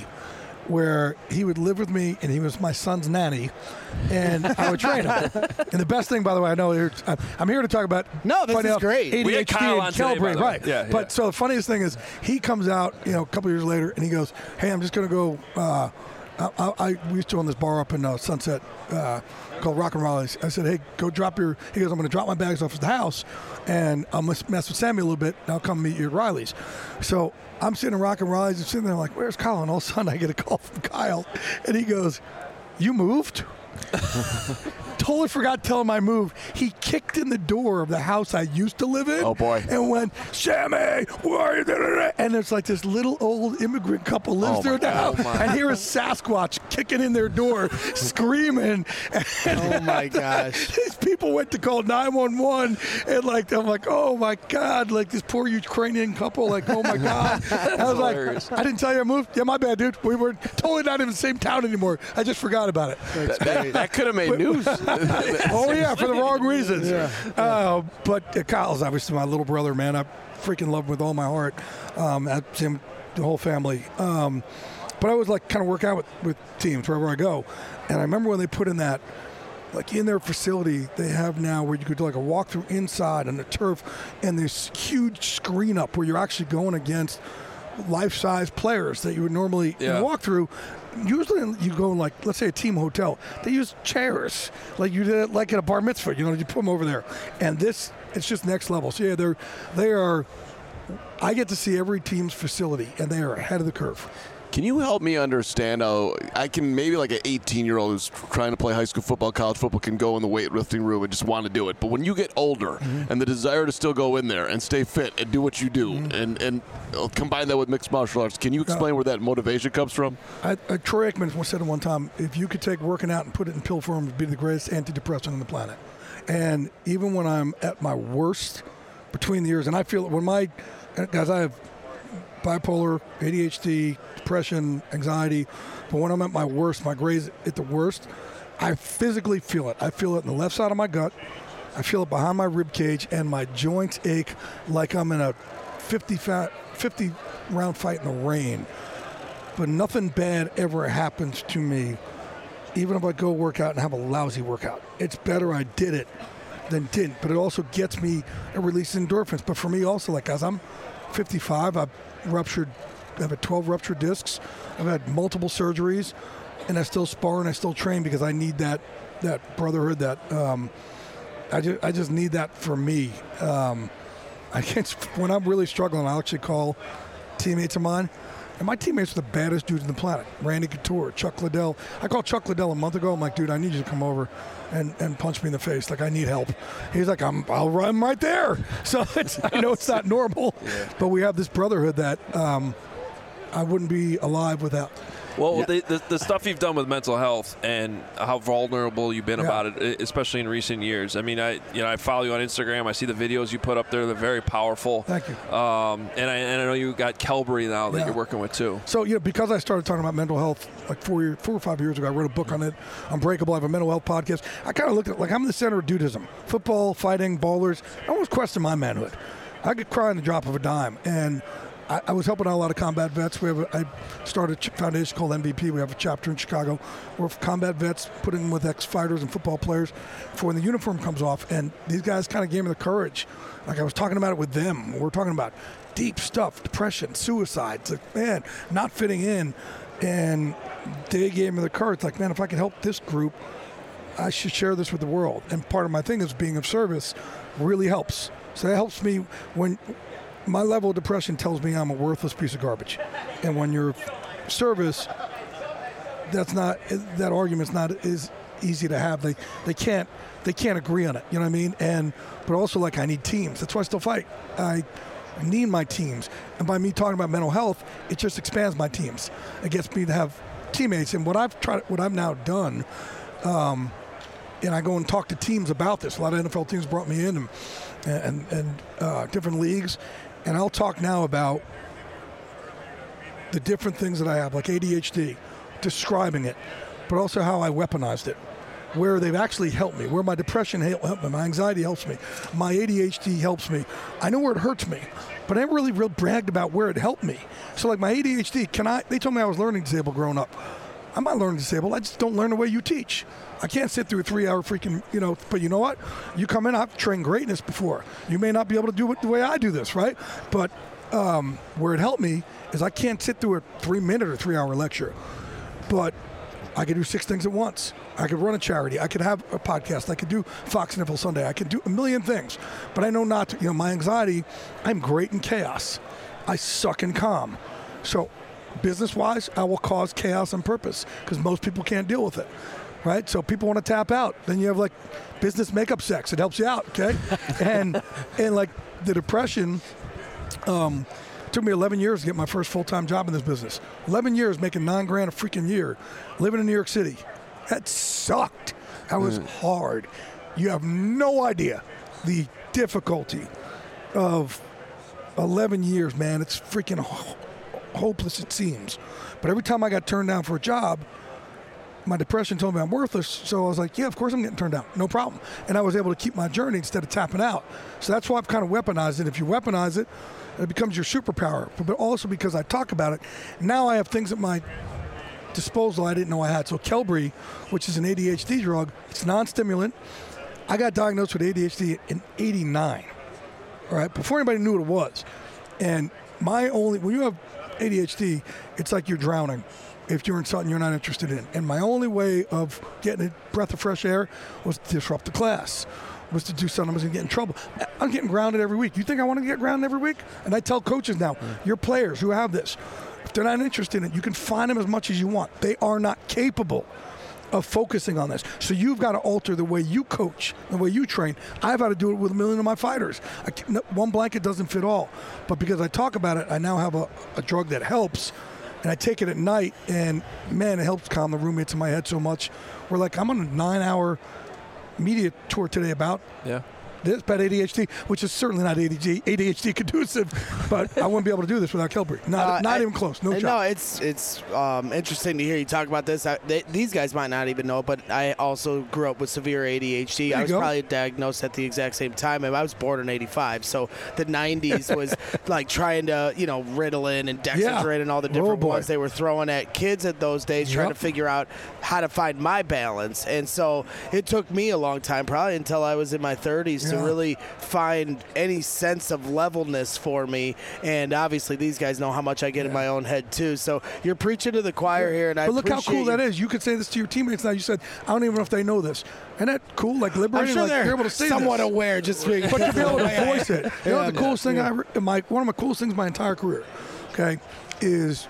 where he would live with me and he was my son's nanny, and I would train him. And the best thing, by the way, I know I'm here to talk about. No, this is great. A D H D we had Kyle on today, brain, right? Yeah, but yeah. so the funniest thing is, he comes out, you know, a couple years later, and he goes, "Hey, I'm just going to go." Uh, I, I, I we used to own this bar up in uh, Sunset uh, called Rock and Raleigh's. I said, "Hey, go drop your." He goes, "I'm going to drop my bags off at the house, and I'm going to mess with Sammy a little bit. And I'll come meet you at Riley's." So I'm sitting in Rock and Raleigh's and sitting there like, "Where's Kyle?" And all of a sudden I get a call from Kyle, and he goes, "You moved?" Totally forgot to tell him I moved. He kicked in the door of the house I used to live in. Oh, boy. And went, "Sammy, where are you?" And there's like this little old immigrant couple lives oh there now. Oh, and here is Sasquatch kicking in their door, screaming. Oh, my gosh. These people went to call nine one one. And like, I'm like, oh, my God. Like this poor Ukrainian couple. Like, oh, my God. I was hilarious. like, I didn't tell you I moved. Yeah, my bad, dude. We were totally not in the same town anymore. I just forgot about it. That, that, that could have made news. Oh, yeah, for the wrong reasons. Yeah. Uh, but uh, Kyle's obviously my little brother, man. I freaking love him with all my heart. Um, that's him, the whole family. Um, but I always like kind of work out with, with teams wherever I go. And I remember when they put in that, like in their facility, they have now where you could do like a walkthrough inside on the turf and this huge screen up where you're actually going against life-size players that you would normally yeah. walk through. Usually you go in like, let's say a team hotel. They use chairs like you did like at a bar mitzvah. You know, you put them over there. And this, it's just next level. So yeah, they're, they are, I get to see every team's facility and they are ahead of the curve. Can you help me understand how I can maybe like an eighteen-year-old who's trying to play high school football, college football can go in the weightlifting room and just want to do it. But when you get older mm-hmm. and the desire to still go in there and stay fit and do what you do mm-hmm. and, and combine that with mixed martial arts, can you explain uh, where that motivation comes from? I, I, Troy Aikman once said at one time, if you could take working out and put it in pill form, it would be the greatest antidepressant on the planet. And even when I'm at my worst between the years, and I feel when my, guys, I have bipolar, A D H D, depression, anxiety. But when I'm at my worst, my grades at the worst, I physically feel it. I feel it in the left side of my gut. I feel it behind my rib cage, and my joints ache like I'm in a fifty round fight in the rain. But nothing bad ever happens to me, even if I go work out and have a lousy workout. It's better I did it than didn't. But it also gets me a release of endorphins. But for me also, like as I'm fifty-five, I've ruptured, I've had twelve ruptured discs. I've had multiple surgeries, and I still spar and I still train because I need that that brotherhood. That um, I just I just need that for me. Um, I can't when I'm really struggling, I'll actually call teammates of mine. And my teammates are the baddest dudes on the planet. Randy Couture, Chuck Liddell. I called Chuck Liddell a month ago. I'm like, dude, I need you to come over and, and punch me in the face. Like, I need help. He's like, I'm, I'll run right there. So it's, I know it's not normal, yeah. but we have this brotherhood that um, I wouldn't be alive without. Well, Yeah. the, the the stuff you've done with mental health and how vulnerable you've been Yeah. about it, especially in recent years. I mean, I you know I follow you on Instagram. I see the videos you put up there. They're very powerful. Thank you. Um, and I and I know you got Kelbury now that Yeah. you're working with too. So, you know, because I started talking about mental health like four, year, four or five years ago, I wrote a book on it, Unbreakable. I have a mental health podcast. I kind of looked at it like I'm the center of dudism. Football, fighting, ballers. I almost question my manhood. I could cry in the drop of a dime. And I, I was helping out a lot of combat vets. We have a, I started a ch- foundation called M V P. We have a chapter in Chicago where combat vets, putting them with ex-fighters and football players for when the uniform comes off. And these guys kind of gave me the courage. Like I was talking about it with them. We're talking about deep stuff, depression, suicide. It's like, man, not fitting in. And they gave me the courage. Like, man, if I can help this group, I should share this with the world. And part of my thing is being of service really helps. So that helps me when my level of depression tells me I'm a worthless piece of garbage. And when you're service, that's not, that argument's not as easy to have. They they can't they can't agree on it. You know what I mean? And but also like I need teams. That's why I still fight. I need my teams. And by me talking about mental health, it just expands my teams. It gets me to have teammates. And what I've tried, what I've now done, um, and I go and talk to teams about this. A lot of N F L teams brought me in and and, and uh, different leagues. And I'll talk now about the different things that I have, like A D H D, describing it, but also how I weaponized it, where they've actually helped me, where my depression helped me, my anxiety helps me, my A D H D helps me. I know where it hurts me, but I never really real bragged about where it helped me. So like my A D H D, can I? They told me I was learning disabled growing up. I'm not learning disabled. I just don't learn the way you teach. I can't sit through a three-hour freaking, you know, but you know what? You come in, I've trained greatness before. You may not be able to do it the way I do this, right? But um, where it helped me is I can't sit through a three-minute or three-hour lecture. But I could do six things at once. I could run a charity. I could have a podcast. I could do Fox N F L Sunday. I could do a million things. But I know not to. You know, my anxiety, I'm great in chaos. I suck in calm. So business-wise, I will cause chaos on purpose because most people can't deal with it, right? So people want to tap out. Then you have, like, business makeup sex. It helps you out, okay? and, and like, the depression um, – took me eleven years to get my first full-time job in this business. eleven years making nine grand a freaking year, living in New York City. That sucked. That was mm. hard. You have no idea the difficulty of eleven years, man. It's freaking ho- hopeless, it seems. But every time I got turned down for a job, my depression told me I'm worthless. So I was like, yeah, of course I'm getting turned down. No problem. And I was able to keep my journey instead of tapping out. So that's why I've kind of weaponized it. If you weaponize it, it becomes your superpower. But also because I talk about it, now I have things at my disposal I didn't know I had. So Kelbury, which is an A D H D drug, it's non-stimulant. I got diagnosed with A D H D in eighty-nine, all right, before anybody knew what it was. And my only, when you have A D H D, it's like you're drowning if you're in something you're not interested in. And my only way of getting a breath of fresh air was to disrupt the class, was to do something I was going to get in trouble. I'm getting grounded every week. You think I want to get grounded every week? And I tell coaches now, mm. your players who have this, if they're not interested in it, you can find them as much as you want. They are not capable of focusing on this. So you've got to alter the way you coach, the way you train. I've had to do it with a million of my fighters. I can, one blanket doesn't fit all. But because I talk about it, I now have a, a drug that helps. And I take it at night, and, man, it helps calm the roommates in my head so much. We're like, I'm on a nine-hour media tour today about yeah. this, about A D H D, which is certainly not A D H D conducive, but I wouldn't be able to do this without Kelbury. Not, uh, not I, even close. No shot. No, it's it's um, interesting to hear you talk about this. I, they, these guys might not even know, but I also grew up with severe A D H D. I was go. probably diagnosed at the exact same time. I was born in eighty-five, so the nineties was like trying to, you know, Ritalin and Dexedrine yeah. and all the different oh, ones they were throwing at kids at those days, yep. trying to figure out how to find my balance. And so it took me a long time, probably until I was in my thirties, yeah. to really find any sense of levelness for me. And obviously these guys know how much I get yeah. in my own head too. So you're preaching to the choir yeah. here, and I But look how cool you. that is. You could say this to your teammates now. You said, I don't even know if they know this. And that cool, like liberating, I'm sure like they're you're able to say somewhat this. aware, just being but you'll be able to voice it. You know yeah, what the coolest thing yeah. I my one of my coolest things my entire career, okay, is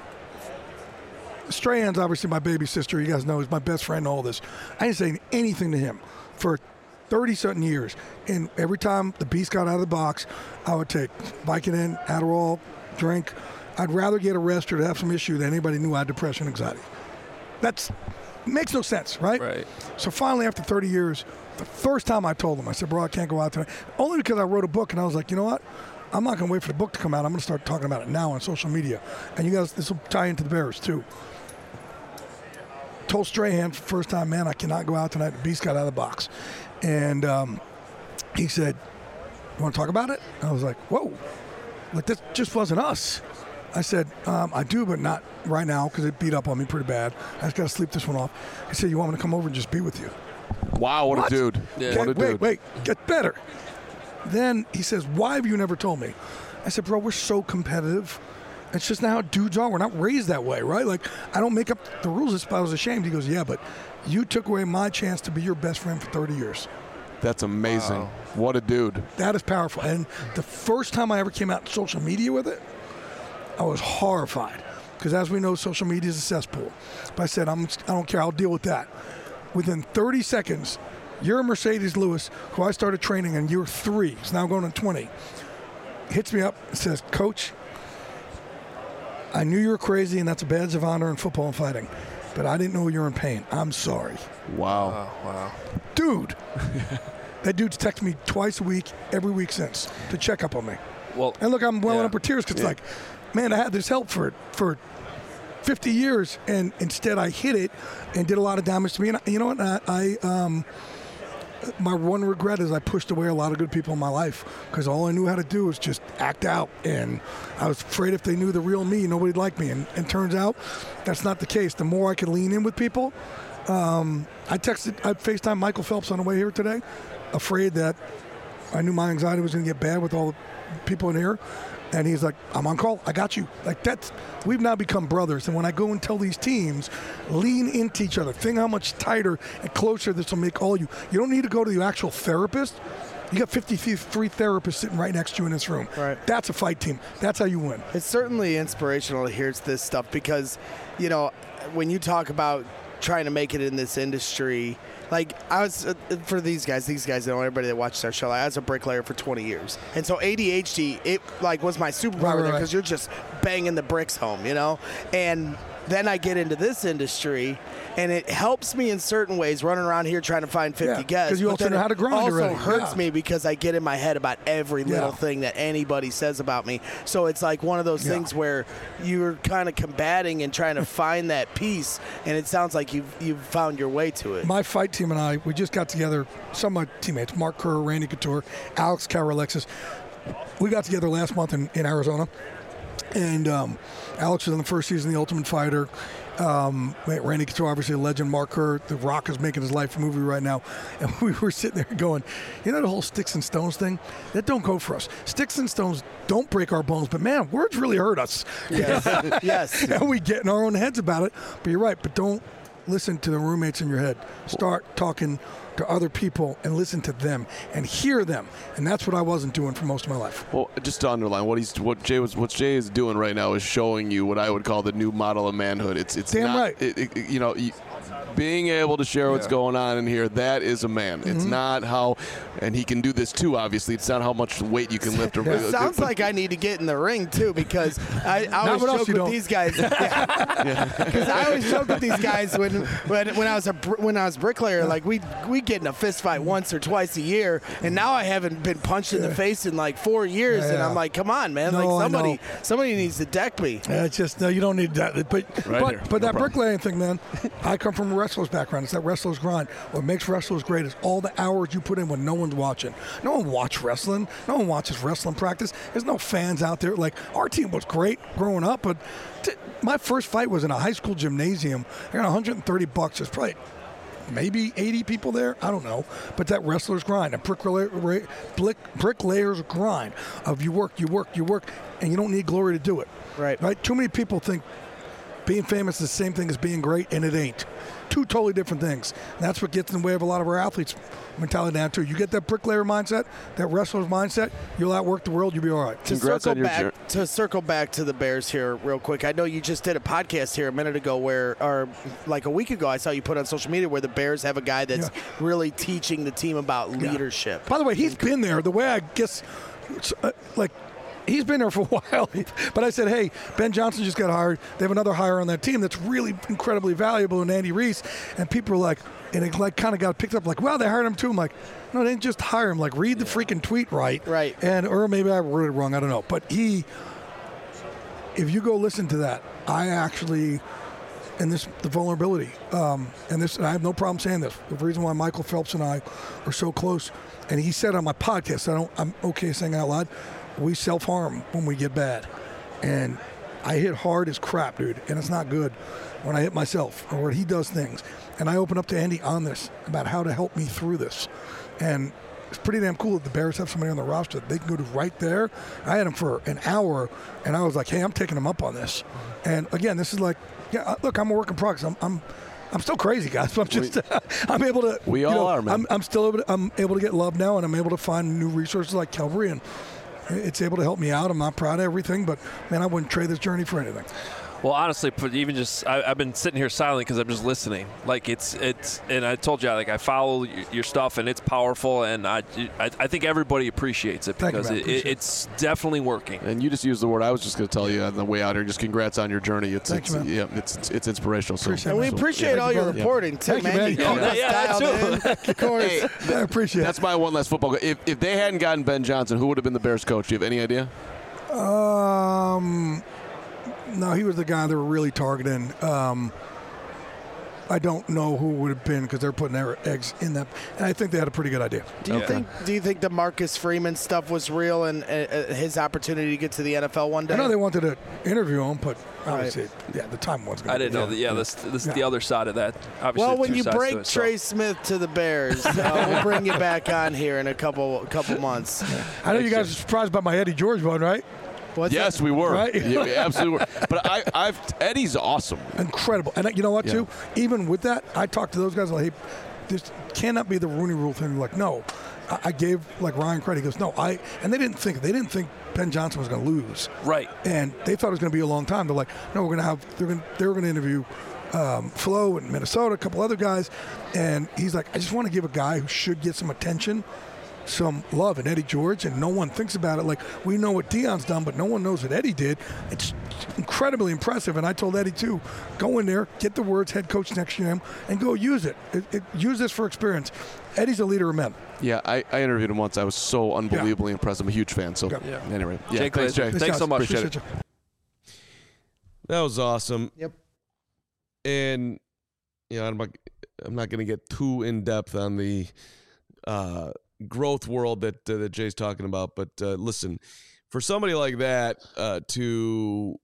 Strahan's obviously my baby sister. You guys know he's my best friend. All this, I didn't say anything to him for thirty-something years. And every time the beast got out of the box, I would take Vicodin, Adderall, drink, I'd rather get arrested or have some issue than anybody knew I had depression and anxiety. That's makes no sense, right? Right. So finally, after thirty years, the first time I told him, I said, bro, I can't go out tonight. Only because I wrote a book, and I was like, you know what? I'm not going to wait for the book to come out. I'm going to start talking about it now on social media. And you guys, this will tie into the Bears, too. Told Strahan for the first time, man, I cannot go out tonight. The beast got out of the box. And um, he said, you want to talk about it? And I was like, whoa, like this just wasn't us. I said, um, I do, but not right now because it beat up on me pretty bad. I just got to sleep this one off. He said, you want me to come over and just be with you? Wow, what, What? a dude. Yeah. What a wait, dude. wait, get better. Then he says, why have you never told me? I said, bro, we're so competitive. It's just not how dudes are. We're not raised that way, right? Like, I don't make up the rules. If I was ashamed, he goes, yeah, but you took away my chance to be your best friend for thirty years. That's amazing. Wow. What a dude. That is powerful. And the first time I ever came out on social media with it, I was horrified. Because as we know, social media is a cesspool. But I said, I'm, I don't care. I'll deal with that. Within thirty seconds, you're Mercedes Lewis, who I started training in year three. He's now going on twenty. Hits me up and says, Coach, I knew you were crazy, and that's a badge of honor in football and fighting. But I didn't know you were in pain. I'm sorry. Wow. Oh, wow. Dude. That dude's texted me twice a week, every week since, to check up on me. Well, And look, I'm welling Yeah. up with tears because Yeah. it's like, man, I had this help for for fifty years, and instead I hit it and did a lot of damage to me. And I- you know what? I, I um, my one regret is I pushed away a lot of good people in my life because all I knew how to do was just act out, and I was afraid if they knew the real me, nobody'd like me. And, and turns out that's not the case. The more I could lean in with people, um, I texted, I FaceTimed Michael Phelps on the way here today, afraid that I knew my anxiety was going to get bad with all the people in here. And he's like, I'm on call. I got you. Like, that's, we've now become brothers. And when I go and tell these teams, lean into each other. Think how much tighter and closer this will make all you. You don't need to go to the actual therapist. You got fifty-three therapists sitting right next to you in this room. Right. That's a fight team. That's how you win. It's certainly inspirational to hear this stuff because, you know, when you talk about trying to make it in this industry, like I was uh, for these guys, these guys know everybody that watches our show. Like, I was a bricklayer for twenty years, and so A D H D, it like was my superpower Right, right, there right. because you're just banging the bricks home, you know. And then I get into this industry, and it helps me in certain ways running around here trying to find fifty Yeah, guests. 'cause you but also then know it how to grind also already. hurts Yeah. me because I get in my head about every little Yeah. thing that anybody says about me. So it's like one of those Yeah. things where you're kind of combating and trying to find that peace, and it sounds like you've you've found your way to it. My fight team and I, we just got together, some of my teammates, Mark Kerr, Randy Couture, Alex Karalexis. We got together last month in, in Arizona. And um, Alex was in the first season of The Ultimate Fighter. Um, Randy Couture, obviously a legend. Mark Kerr, The Rock is making his life movie right now. And we were sitting there going, you know the whole sticks and stones thing? That don't go for us. Sticks and stones don't break our bones, but man, words really hurt us. Yes, yes. And we get in our own heads about it. But you're right, but don't listen to the roommates in your head. Start talking to other people and listen to them and hear them. And that's what I wasn't doing for most of my life. Well, just to underline what he's what Jay was what Jay is doing right now is showing you what I would call the new model of manhood. It's it's Damn not, right. It, it, you know. You, being able to share what's Yeah. going on in here, that is a man. Mm-hmm. It's not how, and he can do this too, obviously. It's not how much weight you can lift. Or, Yeah. Sounds but- like I need to get in the ring too because I, I Not always what else joke you with don't. these guys. Because I always joke with these guys when when, when I was a br- when I was bricklayer, like we we get in a fist fight once or twice a year, and now I haven't been punched in the face in like four years, Yeah, and yeah. I'm like, come on, man, No, I like know. somebody somebody needs to deck me. Yeah, it's just, no, you don't need that. But Right but, here. but No that problem. bricklaying thing, man, I come from a wrestler's background. It's that wrestler's grind. What makes wrestlers great is all the hours you put in when no one's watching. No one watches wrestling. No one watches wrestling practice. There's no fans out there. Like, our team was great growing up, but t- my first fight was in a high school gymnasium. I got one hundred thirty bucks. There's probably maybe eighty people there. I don't know. But that wrestler's grind, a bricklayer, brick, bricklayer's grind of you work, you work, you work, and you don't need glory to do it. Right. Right? Too many people think being famous is the same thing as being great, and it ain't. Two totally different things. And that's what gets in the way of a lot of our athletes' mentality now, too. You get that bricklayer mindset, that wrestler's mindset, you'll outwork the world, you'll be all right. To Congrats circle on your back jour- to circle back to the Bears here real quick. I know you just did a podcast here a minute ago where or like a week ago I saw you put on social media where the Bears have a guy that's Yeah. really teaching the team about leadership. By the way, he's been there. The way I guess, uh, like, he's been there for a while. But I said, hey, Ben Johnson just got hired. They have another hire on that team that's really incredibly valuable in Andy Reese. And people are like, and it like kind of got picked up like, well, they hired him too. I'm like, no, they didn't just hire him. Like, read the freaking tweet right. Right. And or maybe I wrote it wrong. I don't know. But he, if you go listen to that, I actually, and this the vulnerability, um, and this, and I have no problem saying this. The reason why Michael Phelps and I are so close, and he said on my podcast, I don't, I'm okay saying it out loud, we self-harm when we get bad. And I hit hard as crap, dude, and it's not good when I hit myself or when he does things. And I open up to Andy on this about how to help me through this. And it's pretty damn cool that the Bears have somebody on the roster that they can go to right there. I had him for an hour, and I was like, hey, I'm taking him up on this. And again, this is like, yeah, look, I'm a work in progress. I'm, I'm, I'm still crazy, guys. But I'm just, we, I'm able to. We you all know, are, man. I'm, I'm still able to, I'm able to get love now, and I'm able to find new resources like Calvary, and it's able to help me out. I'm not proud of everything, but man, I wouldn't trade this journey for anything. Well, honestly, even just I, I've been sitting here silent because I'm just listening. Like it's it's, and I told you, like I follow your stuff and it's powerful, and I I, I think everybody appreciates it because you, it, it, it's definitely working. And you just used the word I was just going to tell you on the way out here. Just congrats on your journey. It's Thanks, it's man. yeah, it's, it's it's inspirational. So, Appreciate And we so, appreciate yeah. all your brother. reporting, too, Thank you, man. man. You Yeah, keep us yeah, dialed too. in. Of course. Hey, I appreciate that's it. my one last football. Go- If if they hadn't gotten Ben Johnson, who would have been the Bears coach? Do you have any idea? Um, no, he was the guy they were really targeting. Um, I don't know who it would have been because they're putting their eggs in that, and I think they had a pretty good idea. Do you Okay. think? Do you think the Marcus Freeman stuff was real and uh, his opportunity to get to the N F L one day? I know they wanted to interview him, but obviously, yeah, the time wasn't. I didn't know that. Yeah, this this is the other side of that. Obviously, Well, when two you sides to break it, so. Trey Smith to the Bears, uh, we'll bring you back on here in a couple couple months. I know you guys are surprised by my Eddie George one, right? What's Yes, that? we were. Right? Yeah, we absolutely were. But I, I've Eddie's awesome. Incredible. And you know what, Yeah. too? Even with that, I talked to those guys like, hey, this cannot be the Rooney Rule thing. Like, no. I, I gave, like, Ryan credit. He goes, no, I, and they didn't think, they didn't think Ben Johnson was going to lose. Right. And they thought it was going to be a long time. They're like, no, we're going to have, they're going they were going to interview um, Flo in Minnesota, a couple other guys. And he's like, I just want to give a guy who should get some attention some love, and Eddie George, and no one thinks about it. Like, we know what Deion's done, but no one knows what Eddie did. It's incredibly impressive, and I told Eddie too, go in there, get the words head coach next to him, and go use it. It, it use this for experience. Eddie's a leader of men. Yeah, I, I interviewed him once. I was so unbelievably impressed. I'm a huge fan. So Yeah. anyway, yeah, Jake thanks, Glazer. Jay. Thanks so much. Appreciate it. you. That was awesome. Yep. And you know, I'm not, I'm not going to get too in depth on the uh, growth world that uh, that Jay's talking about, but uh, listen, for somebody like that uh, to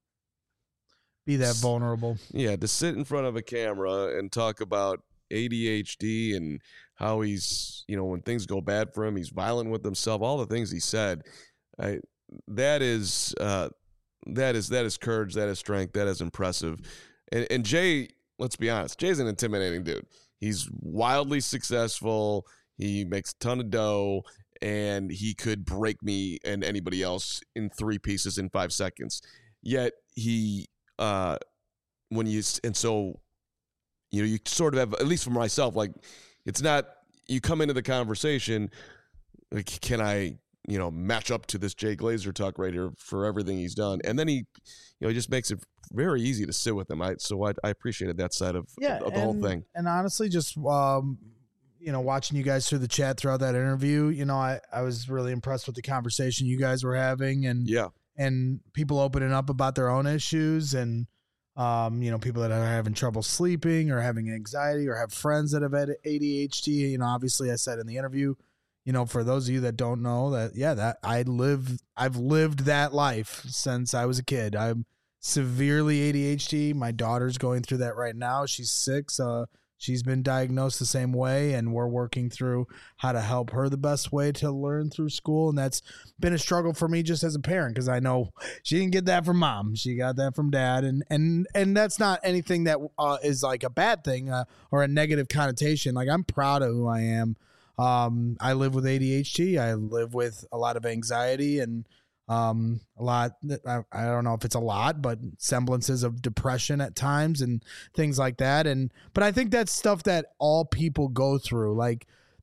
Be that vulnerable. yeah to sit in front of a camera and talk about A D H D and how he's, you know, when things go bad for him, he's violent with himself, all the things he said, I, that is uh, that is that is courage, that is strength, that is impressive. And, and Jay, let's be honest, Jay's an intimidating dude. He's wildly successful. He makes a ton of dough, and he could break me and anybody else in three pieces in five seconds. Yet he, uh, when you, and so, you know, you sort of have, at least for myself, like, it's not, you come into the conversation, like, can I, you know, match up to this Jay Glazer talk right here for everything he's done? And then he, you know, he just makes it very easy to sit with him. I, so I, I appreciated that side of, Yeah, of the whole and- thing. And honestly, just um, you know, watching you guys through the chat throughout that interview, you know, I, I was really impressed with the conversation you guys were having, and Yeah. and people opening up about their own issues, and um, you know, people that are having trouble sleeping or having anxiety or have friends that have had A D H D. You know, obviously, I said in the interview, you know, for those of you that don't know that, yeah, that I live, I've lived that life since I was a kid. I'm severely A D H D. My daughter's going through that right now. She's six. Uh, she's been diagnosed the same way, and we're working through how to help her the best way to learn through school. And that's been a struggle for me just as a parent, because I know she didn't get that from mom. She got that from dad. And and and that's not anything that uh, is like a bad thing uh, or a negative connotation. Like, I'm proud of who I am. Um, I live with A D H D. I live with a lot of anxiety and um, a lot, I, I don't know if it's a lot, but semblances of depression at times and things like that. And, but I think that's stuff that all people go through. Like,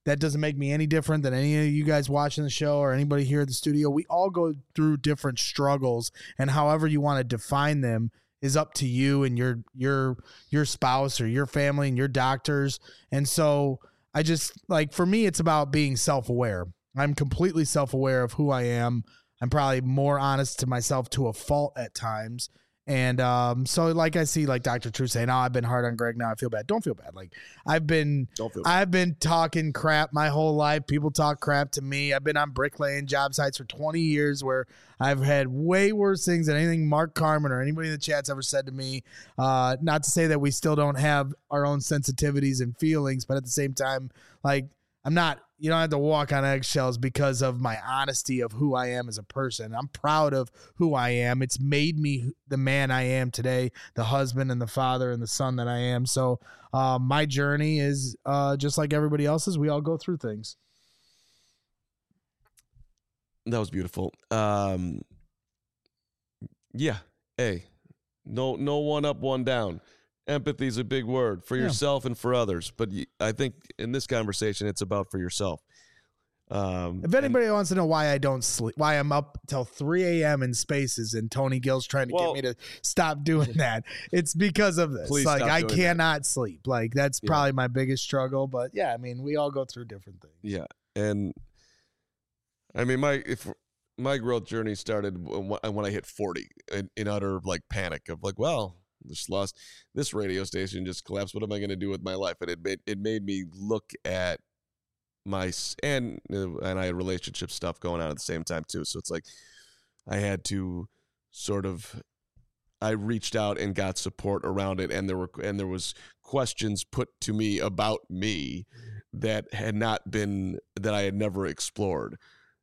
that doesn't make me any different than any of you guys watching the show or anybody here at the studio. We all go through different struggles, and however you want to define them is up to you and your your your spouse or your family and your doctors. And so I just, like, for me, it's about being self-aware. I'm completely self-aware of who I am. I'm probably more honest to myself to a fault at times. And um, so, like, I see, like, Doctor True saying, "Oh, I've been hard on Greg. Now I feel bad." Don't feel bad. Like, I've been, Don't feel bad. I've been talking crap my whole life. People talk crap to me. I've been on bricklaying job sites for twenty years, where I've had way worse things than anything Mark Carmen or anybody in the chat's ever said to me. Uh, not to say that we still don't have our own sensitivities and feelings, but at the same time, like, I'm not, you don't have to walk on eggshells because of my honesty of who I am as a person. I'm proud of who I am. It's made me the man I am today, the husband and the father and the son that I am. So uh, my journey is uh, just like everybody else's. We all go through things. That was beautiful. Um, yeah. Hey, no, no one up, one down. Empathy is a big word for Yeah. yourself and for others. But y- I think in this conversation, it's about for yourself. Um, If anybody wants to know why I don't sleep, why I'm up till three a.m. in Spaces and Tony Gill's trying to Well- get me to stop doing that, it's because of this. Please like, stop I doing that. cannot sleep. Like, that's Yeah. probably my biggest struggle. But yeah, I mean, we all go through different things. Yeah, and I mean, my if my growth journey started when when I hit forty, in, in utter like panic of like, well, just lost this radio station, just collapsed. What am I going to do with my life? And it made it made me look at my s- and uh, and I had relationship stuff going on at the same time too. So it's like I had to sort of. I reached out and got support around it, and there were and there was questions put to me about me that had not been that I had never explored.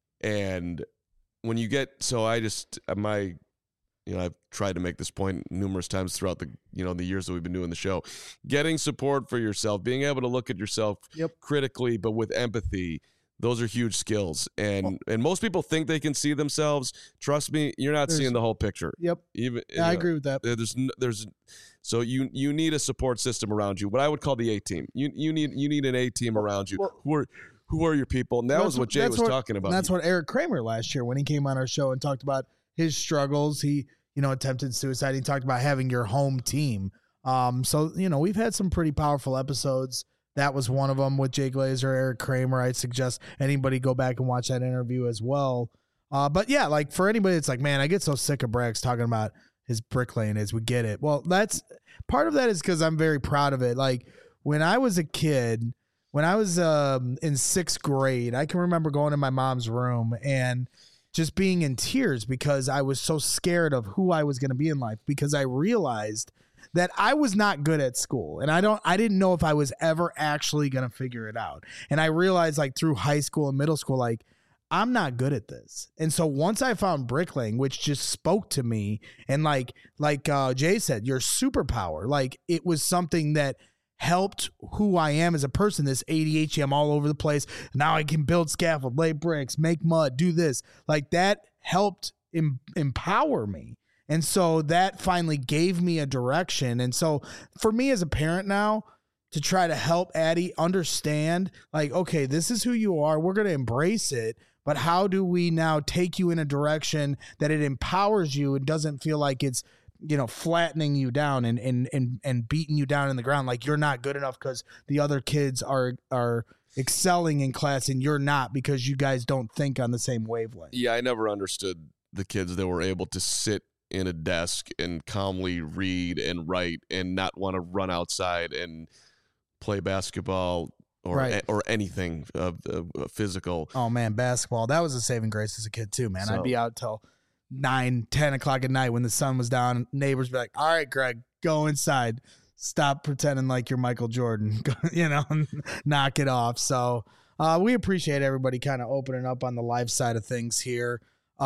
And when you get so I just my you know I've tried to make this point numerous times throughout the you know the years that we've been doing the show, getting support for yourself, being able to look at yourself Yep. critically but with empathy. Those are huge skills, and and most people think they can see themselves. Trust me, you're not There's- seeing the whole picture. Yep. Even Yeah, I you know, agree with that. there- There's n- there's so you you need a support system around you. What I would call the A team. You you need you need an A team around you. well- who are who are your people? And that That's was what what- Jay that's was what- talking about. And that's what Eric Kramer last year when he came on our show and talked about his struggles. He, you know, attempted suicide. He talked about having your home team. Um, so, you know, we've had some pretty powerful episodes. That was one of them with Jay Glazer, Eric Kramer. I'd suggest anybody go back and watch that interview as well. Uh, but yeah, like for anybody, it's like, man, I get so sick of Brax talking about his bricklaying is we get it. Well, that's part of that is because I'm very proud of it. Like when I was a kid, when I was um, in sixth grade, I can remember going in my mom's room and just being in tears because I was so scared of who I was going to be in life, because I realized that I was not good at school, and I don't I didn't know if I was ever actually going to figure it out. And I realized, like, through high school and middle school, like, I'm not good at this. And so once I found bricklaying, which just spoke to me, and like like uh, Jay said, your superpower, like it was something that helped who I am as a person. This A D H D, I'm all over the place. Now I can build scaffold, lay bricks, make mud, do this. Like that helped em- empower me. And so that finally gave me a direction. And so for me as a parent now, to try to help Addie understand, like, okay, this is who you are. We're going to embrace it. But how do we now take you in a direction that it empowers you and doesn't feel like it's, you know, flattening you down and and and and beating you down in the ground, like you're not good enough because the other kids are are excelling in class and you're not because you guys don't think on the same wavelength. Yeah, I never understood the kids that were able to sit in a desk and calmly read and write and not want to run outside and play basketball or Right. or anything uh, uh, physical. Oh man, basketball, that was a saving grace as a kid too, man. So- I'd be out till nine, ten o'clock at night when the sun was down. Neighbors be like, "All right, Greg, go inside. Stop pretending like you're Michael Jordan. You know, knock it off." So uh, we appreciate everybody kind of opening up on the live side of things here.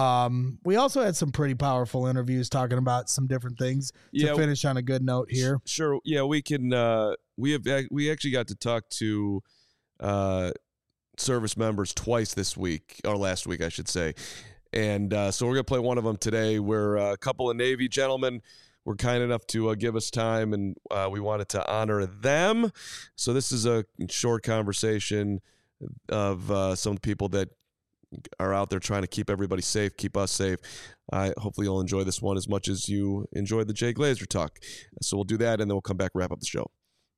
Um, we also had some pretty powerful interviews talking about some different things to Yeah. finish on a good note here. Sure. Yeah, we can. Uh, we have. We actually got to talk to uh, service members twice this week, or last week, I should say. And uh, so we're gonna play one of them today. Where uh, a couple of Navy gentlemen were kind enough to uh, give us time, and uh, we wanted to honor them. So this is a short conversation of uh, some of the people that are out there trying to keep everybody safe, keep us safe. Uh, hopefully you'll enjoy this one as much as you enjoyed the Jay Glazer talk. So we'll do that, and then we'll come back and wrap up the show.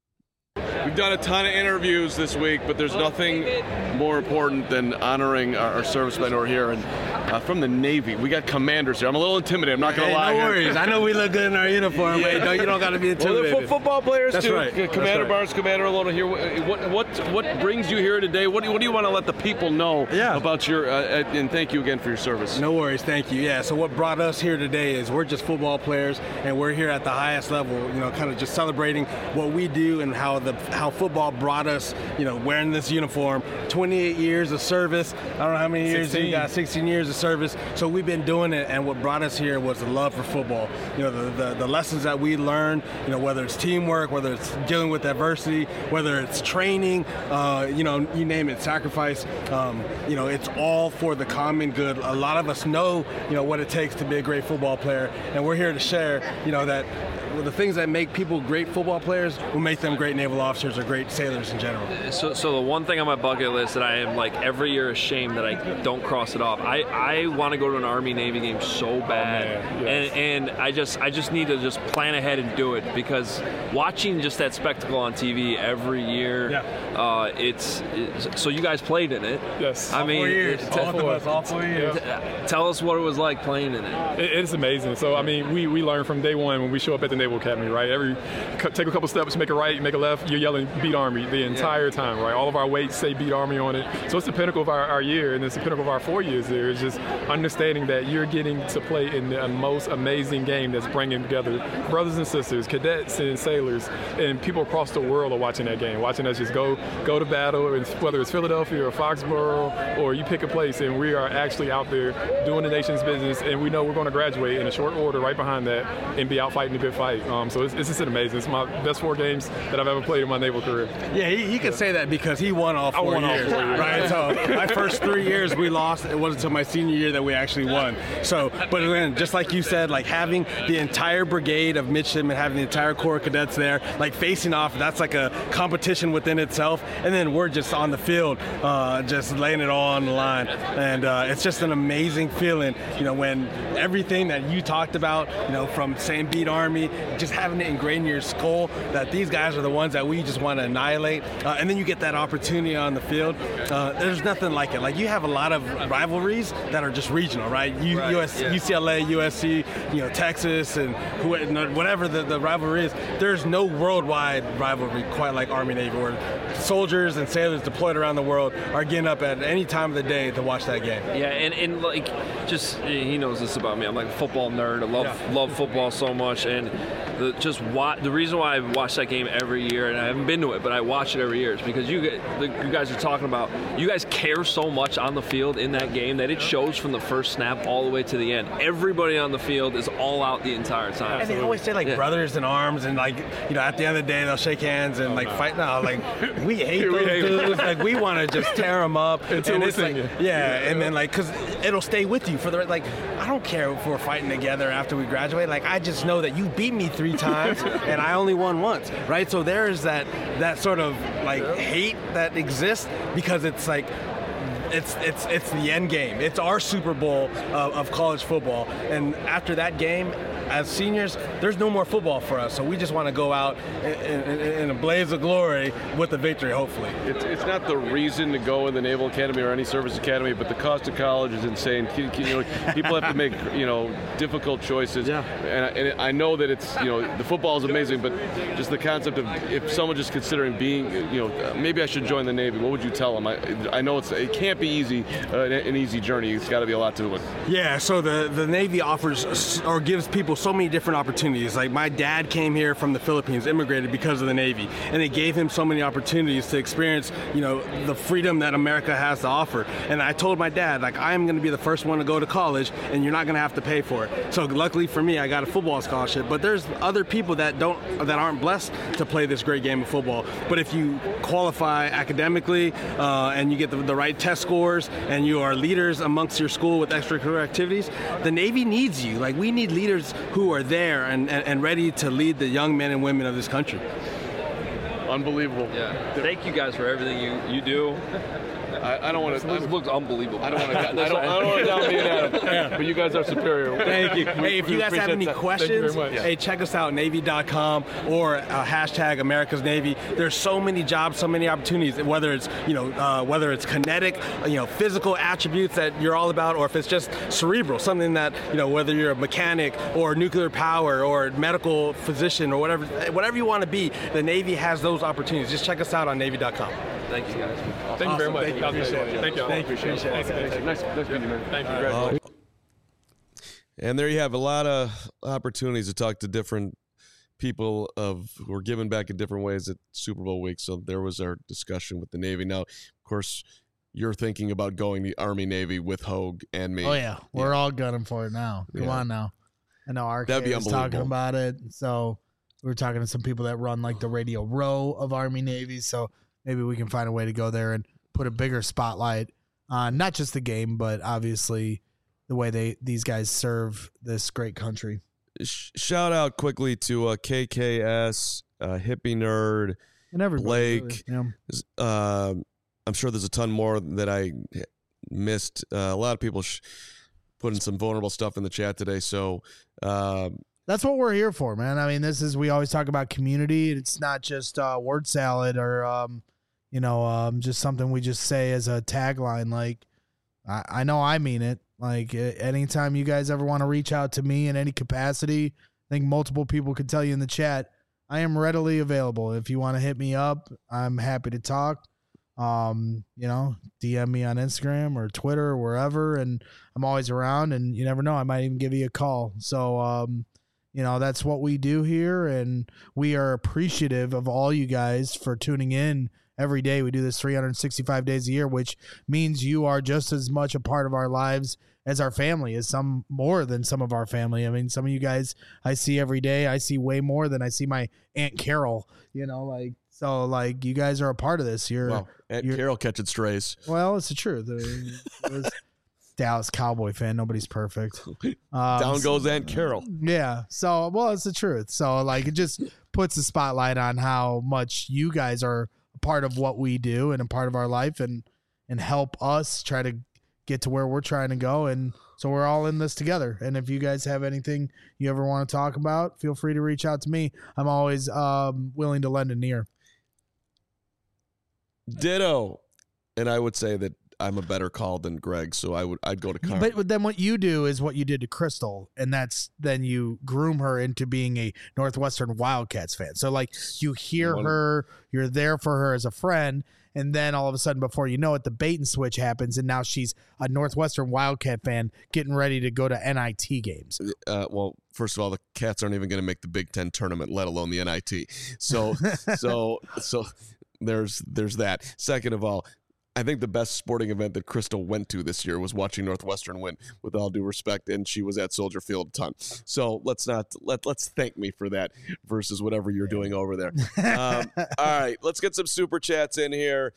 We've done a ton of interviews this week, but there's nothing more important than honoring our, our servicemen who are here. And uh, from the Navy, we got commanders here. I'm a little intimidated. I'm not going to hey, lie. No here. worries. I know we look good in our uniform, yeah. but no, you don't got to be intimidated. Well, they're football players That's too. Right. Commander That's right. Barnes, Commander Alona here. What what what brings you here today? What do you, what do you want to let the people know yeah. about your? Uh, and thank you again for your service. No worries. Thank you. Yeah. So what brought us here today is we're just football players, and we're here at the highest level. You know, kind of just celebrating what we do and how the how football brought us. You know, wearing this uniform, twenty-eight years of service. I don't know how many years sixteen. you got, sixteen years of service. So we've been doing it, and what brought us here was the love for football. You know, the, the, the lessons that we learned, you know, whether it's teamwork, whether it's dealing with adversity, whether it's training, uh, you know, you name it, sacrifice, um, you know, it's all for the common good. A lot of us know, you know, what it takes to be a great football player, and we're here to share, you know, that the things that make people great football players will make them great naval officers or great sailors in general. So, so the one thing on my bucket list that I am like every year ashamed that I don't cross it off. I, I want to go to an Army Navy game so bad, oh, yes. and and I just I just need to just plan ahead and do it, because watching just that spectacle on T V every year, yeah. uh, it's, it's so you guys played in it. Yes. I all mean, four years. T- all four. All four years. T- tell us what it was like playing in it. it. It's amazing. So I mean, we we learn from day one when we show up at the Naval Academy, right? Every take a couple steps, make a right, make a left, you're yelling "Beat Army" the entire yeah. time, right? All of our weights say "Beat Army" on it. So it's the pinnacle of our, our year, and it's the pinnacle of our four years there. It's just understanding that you're getting to play in the most amazing game that's bringing together brothers and sisters, cadets and sailors, and people across the world are watching that game, watching us just go go to battle, and whether it's Philadelphia or Foxborough, or you pick a place, and we are actually out there doing the nation's business, and we know we're going to graduate in a short order right behind that and be out fighting the good fight. Um, so it's, it's just amazing. It's my best four games that I've ever played in my naval career. Yeah, he, he can say that because he won all four won all years, four years. right? So my first three years we lost. It wasn't until my senior year that we actually won. So, but again, just like you said, like having the entire brigade of midshipmen, having the entire Corps of Cadets there, like facing off, that's like a competition within itself. And then we're just on the field, uh, just laying it all on the line. And uh, it's just an amazing feeling, you know, when everything that you talked about, you know, from saying "Beat Army," just having it ingrained in your skull that these guys are the ones that we just want to annihilate. Uh, and then you get that opportunity on the field. Uh, there's nothing like it. Like, you have a lot of rivalries that are just regional, right? U- Right, U S, yeah. U C L A, U S C, you know, Texas, and who, whatever the, the rivalry is. There's no worldwide rivalry quite like Army Navy, where soldiers and sailors deployed around the world are getting up at any time of the day to watch that game. Yeah, and, and like, just, he knows this about me. I'm like a football nerd. I love Yeah. love football so much, and the, just wa- the reason why I watch that game every year, and I haven't been to it, but I watch it every year, is because you get, the, you guys are talking about, you guys care so much on the field in that game that it shows from the first snap all the way to the end. Everybody on the field is all out the entire time. And they always say, like, Yeah. brothers in arms, and, like, you know, at the end of the day, they'll shake hands and, like, fight. No, like, we hate We those hate 'em. dudes. Like, we want to just tear them up. Until and we're it's like, singing. yeah, and then, like, because it'll stay with you for the, like, I don't care if we're fighting together after we graduate. Like, I just know that you beat me three times, and I only won once, right? So there's that, that sort of, like, hate that exists because it's, like, It's it's it's the end game. It's our Super Bowl of, of college football. And after that game, as seniors, there's no more football for us. So we just want to go out in, in, in a blaze of glory with a victory, hopefully. It's, it's not the reason to go in the Naval Academy or any service academy, but the cost of college is insane. You know, people have to make, you know, difficult choices. Yeah. And, I, and I know that it's, you know, the football is amazing, but just the concept of if someone just considering being, you know, maybe I should join the Navy, what would you tell them? I, I know it's it can't be easy, uh, an easy journey. It's got to be a lot to it. Yeah, so the, the Navy offers or gives people so many different opportunities. Like, my dad came here from the Philippines, immigrated because of the Navy, and it gave him so many opportunities to experience, you know, the freedom that America has to offer. And I told my dad, like, I'm going to be the first one to go to college, and you're not going to have to pay for it. So luckily for me, I got a football scholarship. But there's other people that don't, that aren't blessed to play this great game of football. But if you qualify academically uh, and you get the, the right test scores, and you are leaders amongst your school with extracurricular activities, the Navy needs you. Like, we need leaders who are there and, and, and ready to lead the young men and women of this country. Unbelievable. Yeah. Thank you guys for everything you, you do. I, I don't want to. This looks unbelievable. I don't want to. I don't, I don't want to down me and Adam. Yeah. But you guys are superior. Thank you. We, Hey, if we you guys have appreciate any that. questions, Thank you very much. hey, check us out, Navy dot com or uh, hashtag America's Navy. There's so many jobs, so many opportunities. Whether it's you know uh, whether it's kinetic, you know, physical attributes that you're all about, or if it's just cerebral, something that you know, whether you're a mechanic or nuclear power or medical physician or whatever, whatever you want to be, the Navy has those opportunities. Just check us out on Navy dot com. Thank you guys. Thank you very much. Thank you. Appreciate it. Thank you. Thank you. Appreciate it. Appreciate it. Nice, nice meeting you, man. Thank you. Congratulations. And there you have a lot of opportunities to talk to different people of who are giving back in different ways at Super Bowl week. So there was our discussion with the Navy. Now, of course, you're thinking about going the Army Navy with Hogue and me. Oh yeah, we're Yeah. all gunning for it now. Come Yeah. on now. I know R K That'd be was talking unbelievable. about it. So we were talking to some people that run like the Radio Row of Army Navy. So maybe we can find a way to go there and put a bigger spotlight on not just the game, but obviously the way they these guys serve this great country. Sh- shout out quickly to uh, K K S, uh, Hippie Nerd, And everybody, Blake. really. Yeah. Uh, I'm sure there's a ton more that I missed. Uh, a lot of people sh- putting some vulnerable stuff in the chat today. So uh, That's what we're here for, man. I mean, this is, we always talk about community. It's not just uh, word salad or, um, you know, um, just something we just say as a tagline. Like, I, I know I mean it. Like, uh, anytime you guys ever want to reach out to me in any capacity, I think multiple people could tell you in the chat, I am readily available. If you want to hit me up, I'm happy to talk. Um, you know, D M me on Instagram or Twitter or wherever, and I'm always around, and you never know, I might even give you a call. So, um, you know, that's what we do here, and we are appreciative of all you guys for tuning in every day. We do this three hundred sixty-five days a year, which means you are just as much a part of our lives as our family, as some more than some of our family. I mean, some of you guys I see every day. I see way more than I see my Aunt Carol, you know, like, so like you guys are a part of this. You're, wow, Aunt you're Carol catching strays. well, it's the truth. I mean, it was Dallas Cowboy fan. Nobody's perfect. Um, Down goes Aunt Carol. Yeah. So, well, it's the truth. So, like, it just puts a spotlight on how much you guys are a part of what we do and a part of our life, and and help us try to get to where we're trying to go. And so we're all in this together. And if you guys have anything you ever want to talk about, feel free to reach out to me. I'm always um, willing to lend an ear. Ditto. And I would say that I'm a better call than Greg, so I would I'd go to Carm. But, but then what you do is what you did to Crystal, and that's then you groom her into being a Northwestern Wildcats fan. So like you hear One- her, you're there for her as a friend, and then all of a sudden, before you know it, the bait and switch happens, and now she's a Northwestern Wildcat fan getting ready to go to N I T games. Uh, well, first of all, the Cats aren't even going to make the Big Ten tournament, let alone the N I T. So, so, so there's there's that. Second of all, I think the best sporting event that Crystal went to this year was watching Northwestern win, with all due respect, and she was at Soldier Field a ton. So let's not let let's thank me for that versus whatever you're doing over there. Um, all right, let's get some super chats in here.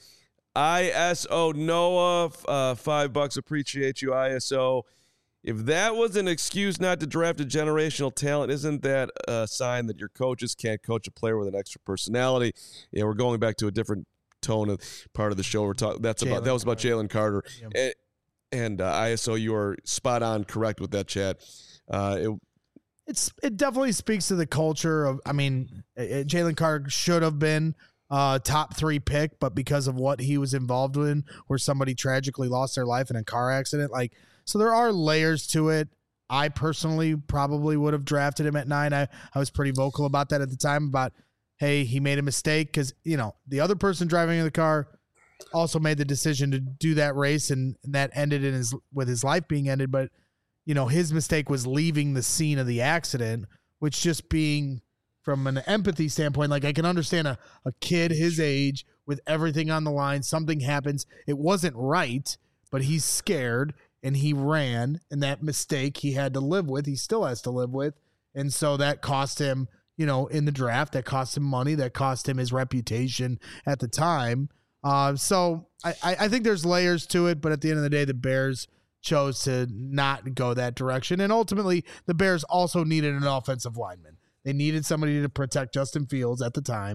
I S O Noah, uh, five bucks. Appreciate you, I S O. If that was an excuse not to draft a generational talent, isn't that a sign that your coaches can't coach a player with an extra personality? Yeah, we're going back to a different tone of part of the show. We're talking. That's about Jalen that was about Jalen Carter, Yep. and, and uh, I S O. You are spot on, correct with that, Chad. Uh, it, It's it definitely speaks to the culture of. I mean, uh, Jalen Carter should have been uh, top three pick, but because of what he was involved in, where somebody tragically lost their life in a car accident, like so, there are layers to it. I personally probably would have drafted him at nine. I I was pretty vocal about that at the time about, hey, he made a mistake because, you know, the other person driving in the car also made the decision to do that race, and, and that ended in his with his life being ended. But, you know, his mistake was leaving the scene of the accident, which just being from an empathy standpoint, like I can understand a, a kid his age with everything on the line, something happens. It wasn't right, but he's scared and he ran, and that mistake he had to live with. He still has to live with. And so that cost him, you know, in the draft, that cost him money, that cost him his reputation at the time. Uh, so I, I think there's layers to it, but at the end of the day, the Bears chose to not go that direction. And ultimately, the Bears also needed an offensive lineman. They needed somebody to protect Justin Fields at the time.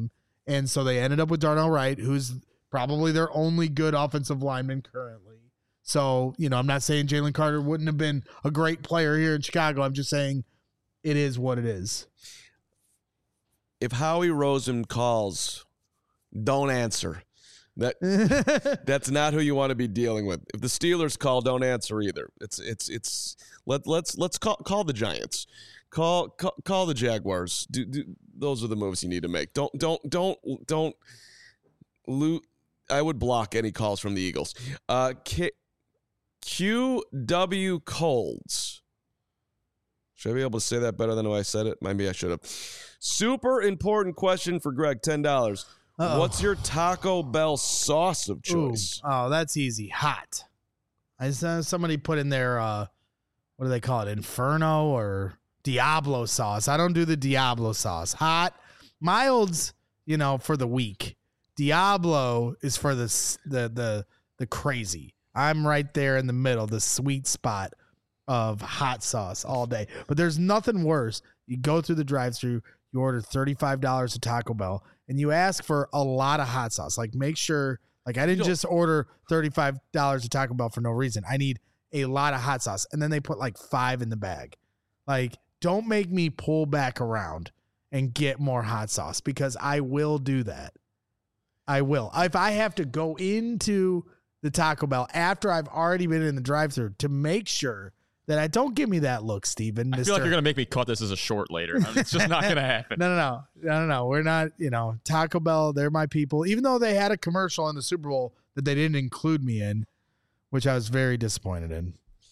And so they ended up with Darnell Wright, who's probably their only good offensive lineman currently. So, you know, I'm not saying Jalen Carter wouldn't have been a great player here in Chicago. I'm just saying it is what it is. If Howie Roseman calls, don't answer. That that's not who you want to be dealing with. If the Steelers call, don't answer either. It's it's it's let let's let's call call the Giants. Call call, call the Jaguars. Do, do, those are the moves you need to make. Don't don't don't don't loot. I would block any calls from the Eagles. Uh, K, Q W Colds. Should I be able to say that better than the way I said it? Maybe I should have. Super important question for Greg. ten dollars. Uh-oh. What's your Taco Bell sauce of choice? Ooh. Oh, that's easy. Hot. I saw somebody put in there. Uh, what do they call it? Inferno or Diablo sauce. I don't do the Diablo sauce. Hot. Mild's, you know, for the weak. Diablo is for the the the the crazy. I'm right there in the middle, the sweet spot of hot sauce all day. But there's nothing worse. You go through the drive-thru, you order thirty-five dollars at Taco Bell, and you ask for a lot of hot sauce. Like, make sure, like, I didn't just order thirty-five dollars at Taco Bell for no reason. I need a lot of hot sauce. And then they put like five in the bag. Like, don't make me pull back around and get more hot sauce, because I will do that. I will. If I have to go into the Taco Bell after I've already been in the drive-thru to make sure that I don't give me that look, Steven. I feel like you're going to make me cut this as a short later. I mean, it's just not going to happen. No, no, no. No, no, no. We're not, you know, Taco Bell, they're my people. Even though they had a commercial in the Super Bowl that they didn't include me in, which I was very disappointed in.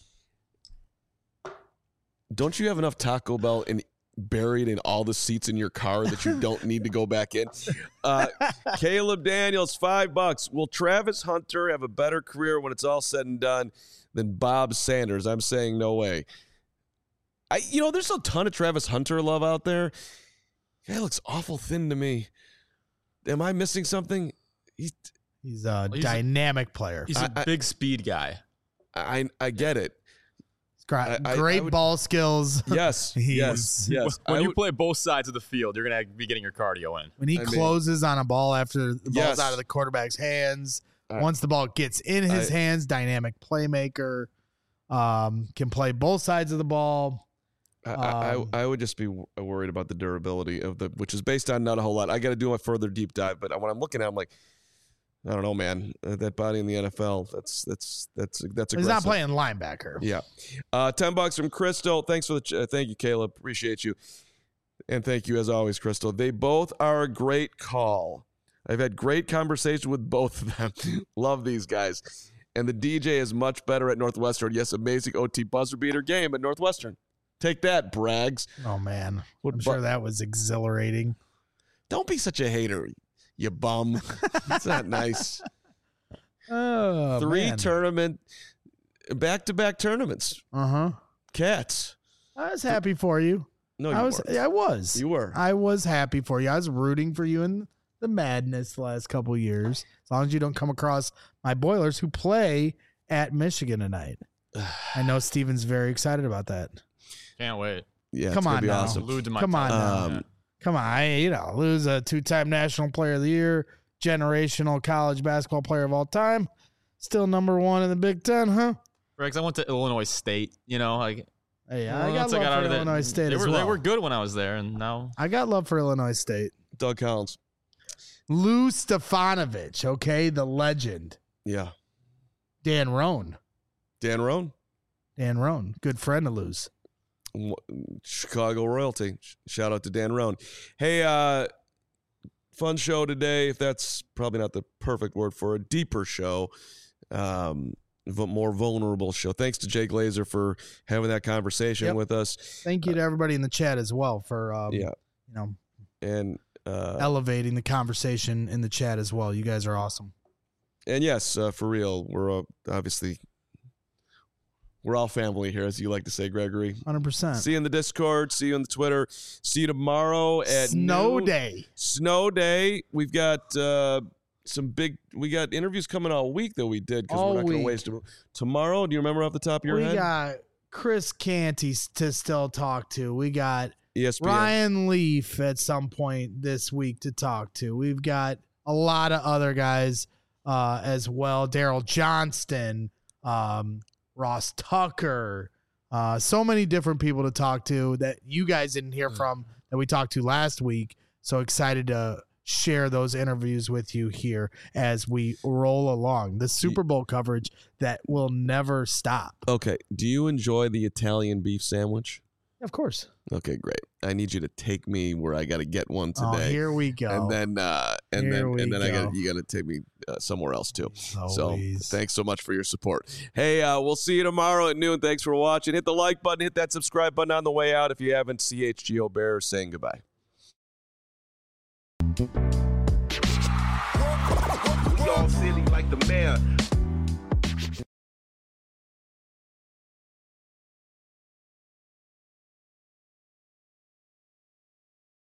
Don't you have enough Taco Bell in buried in all the seats in your car that you don't need to go back in? Uh, Caleb Daniels, five bucks. Will Travis Hunter have a better career when it's all said and done than Bob Sanders? I'm saying no way. I, you know, there's a ton of Travis Hunter love out there. Guy looks awful thin to me. Am I missing something? He's he's a he's dynamic a, player. He's a I, big speed guy. I I get it. Great, I, great I would, ball skills. Yes, yes, yes. When I you would, play both sides of the field, you're going to be getting your cardio in. When he I closes mean, on a ball after the ball's yes. out of the quarterback's hands, I, once the ball gets in his I, hands, dynamic playmaker, um, can play both sides of the ball. I, um, I, I would just be worried about the durability of the, which is based on not a whole lot. I got to do a further deep dive, but when I'm looking at, it, I'm like, I don't know, man. Uh, that body in the N F L, that's that's that's that's aggressive. He's not playing linebacker. Yeah. Uh, ten bucks from Crystal. Thanks for the ch- uh, thank you, Caleb. Appreciate you, and thank you as always, Crystal. They both are a great call. I've had great conversation with both of them. Love these guys, and the D J is much better at Northwestern. Yes, amazing O T buzzer beater game at Northwestern. Take that, Brags. Oh man, What I'm bu- sure that was exhilarating. Don't be such a hater, you bum. It's not nice. Oh, Three man. tournament, back-to-back tournaments. Uh huh. Cats. I was happy for you. No, you I was. weren't. I was. You were. I was happy for you. I was rooting for you in the madness the last couple of years. As long as you don't come across my Boilers, who play at Michigan tonight. I know Steven's very excited about that. Can't wait. Yeah, Come it's gonna on be now. awesome. Glued to my Come on television. now. Um, Come on, I, you know, lose a two-time national player of the year, generational college basketball player of all time, still number one in the Big Ten, huh? Rex, I went to Illinois State. You know, like Hey, I well, got once love got for out of the- Illinois State They as were well. they were good when I was there, and now I got love for Illinois State. Doug Collins. Lou Stefanovic, okay, the legend. Yeah. Dan Roan. Dan Roan. Dan Roan, good friend of Lou's. Chicago royalty. Shout out to Dan Roan. Hey, uh, fun show today. If that's probably not the perfect word for a deeper show, um, v- more vulnerable show. Thanks to Jake Glazer for having that conversation Yep. with us. Thank you to everybody in the chat as well for, um, Yeah. you know, And uh, elevating the conversation in the chat as well. You guys are awesome. and yes, uh, for real, we're uh, obviously we're all family here, as you like to say, Gregory. one hundred percent. See you in the Discord. See you on the Twitter. See you tomorrow at Snow noon. Day. Snow Day. We've got uh, some big. We got interviews coming all week that we did because All we're not going to week. waste them. Tomorrow, do you remember off the top of your We head? got Chris Canty to still talk to. We got E S P N. Ryan Leaf at some point this week to talk to. We've got a lot of other guys uh, as well. Daryl Johnston, um, Ross Tucker, uh, so many different people to talk to that you guys didn't hear from that we talked to last week. So excited to share those interviews with you here as we roll along. The Super Bowl coverage that will never stop. Okay. Do you enjoy the Italian beef sandwich? Of course. Okay, great. I need you to take me where I got to get one today. Oh, here we go. And then, uh, and Here then, we and then I go. got you got to take me uh, somewhere else too. So Always. thanks so much for your support. Hey, uh, we'll see you tomorrow at noon. Thanks for watching. Hit the like button. Hit that subscribe button on the way out. If you haven't, C H G O Bear saying goodbye. We all silly like the mayor.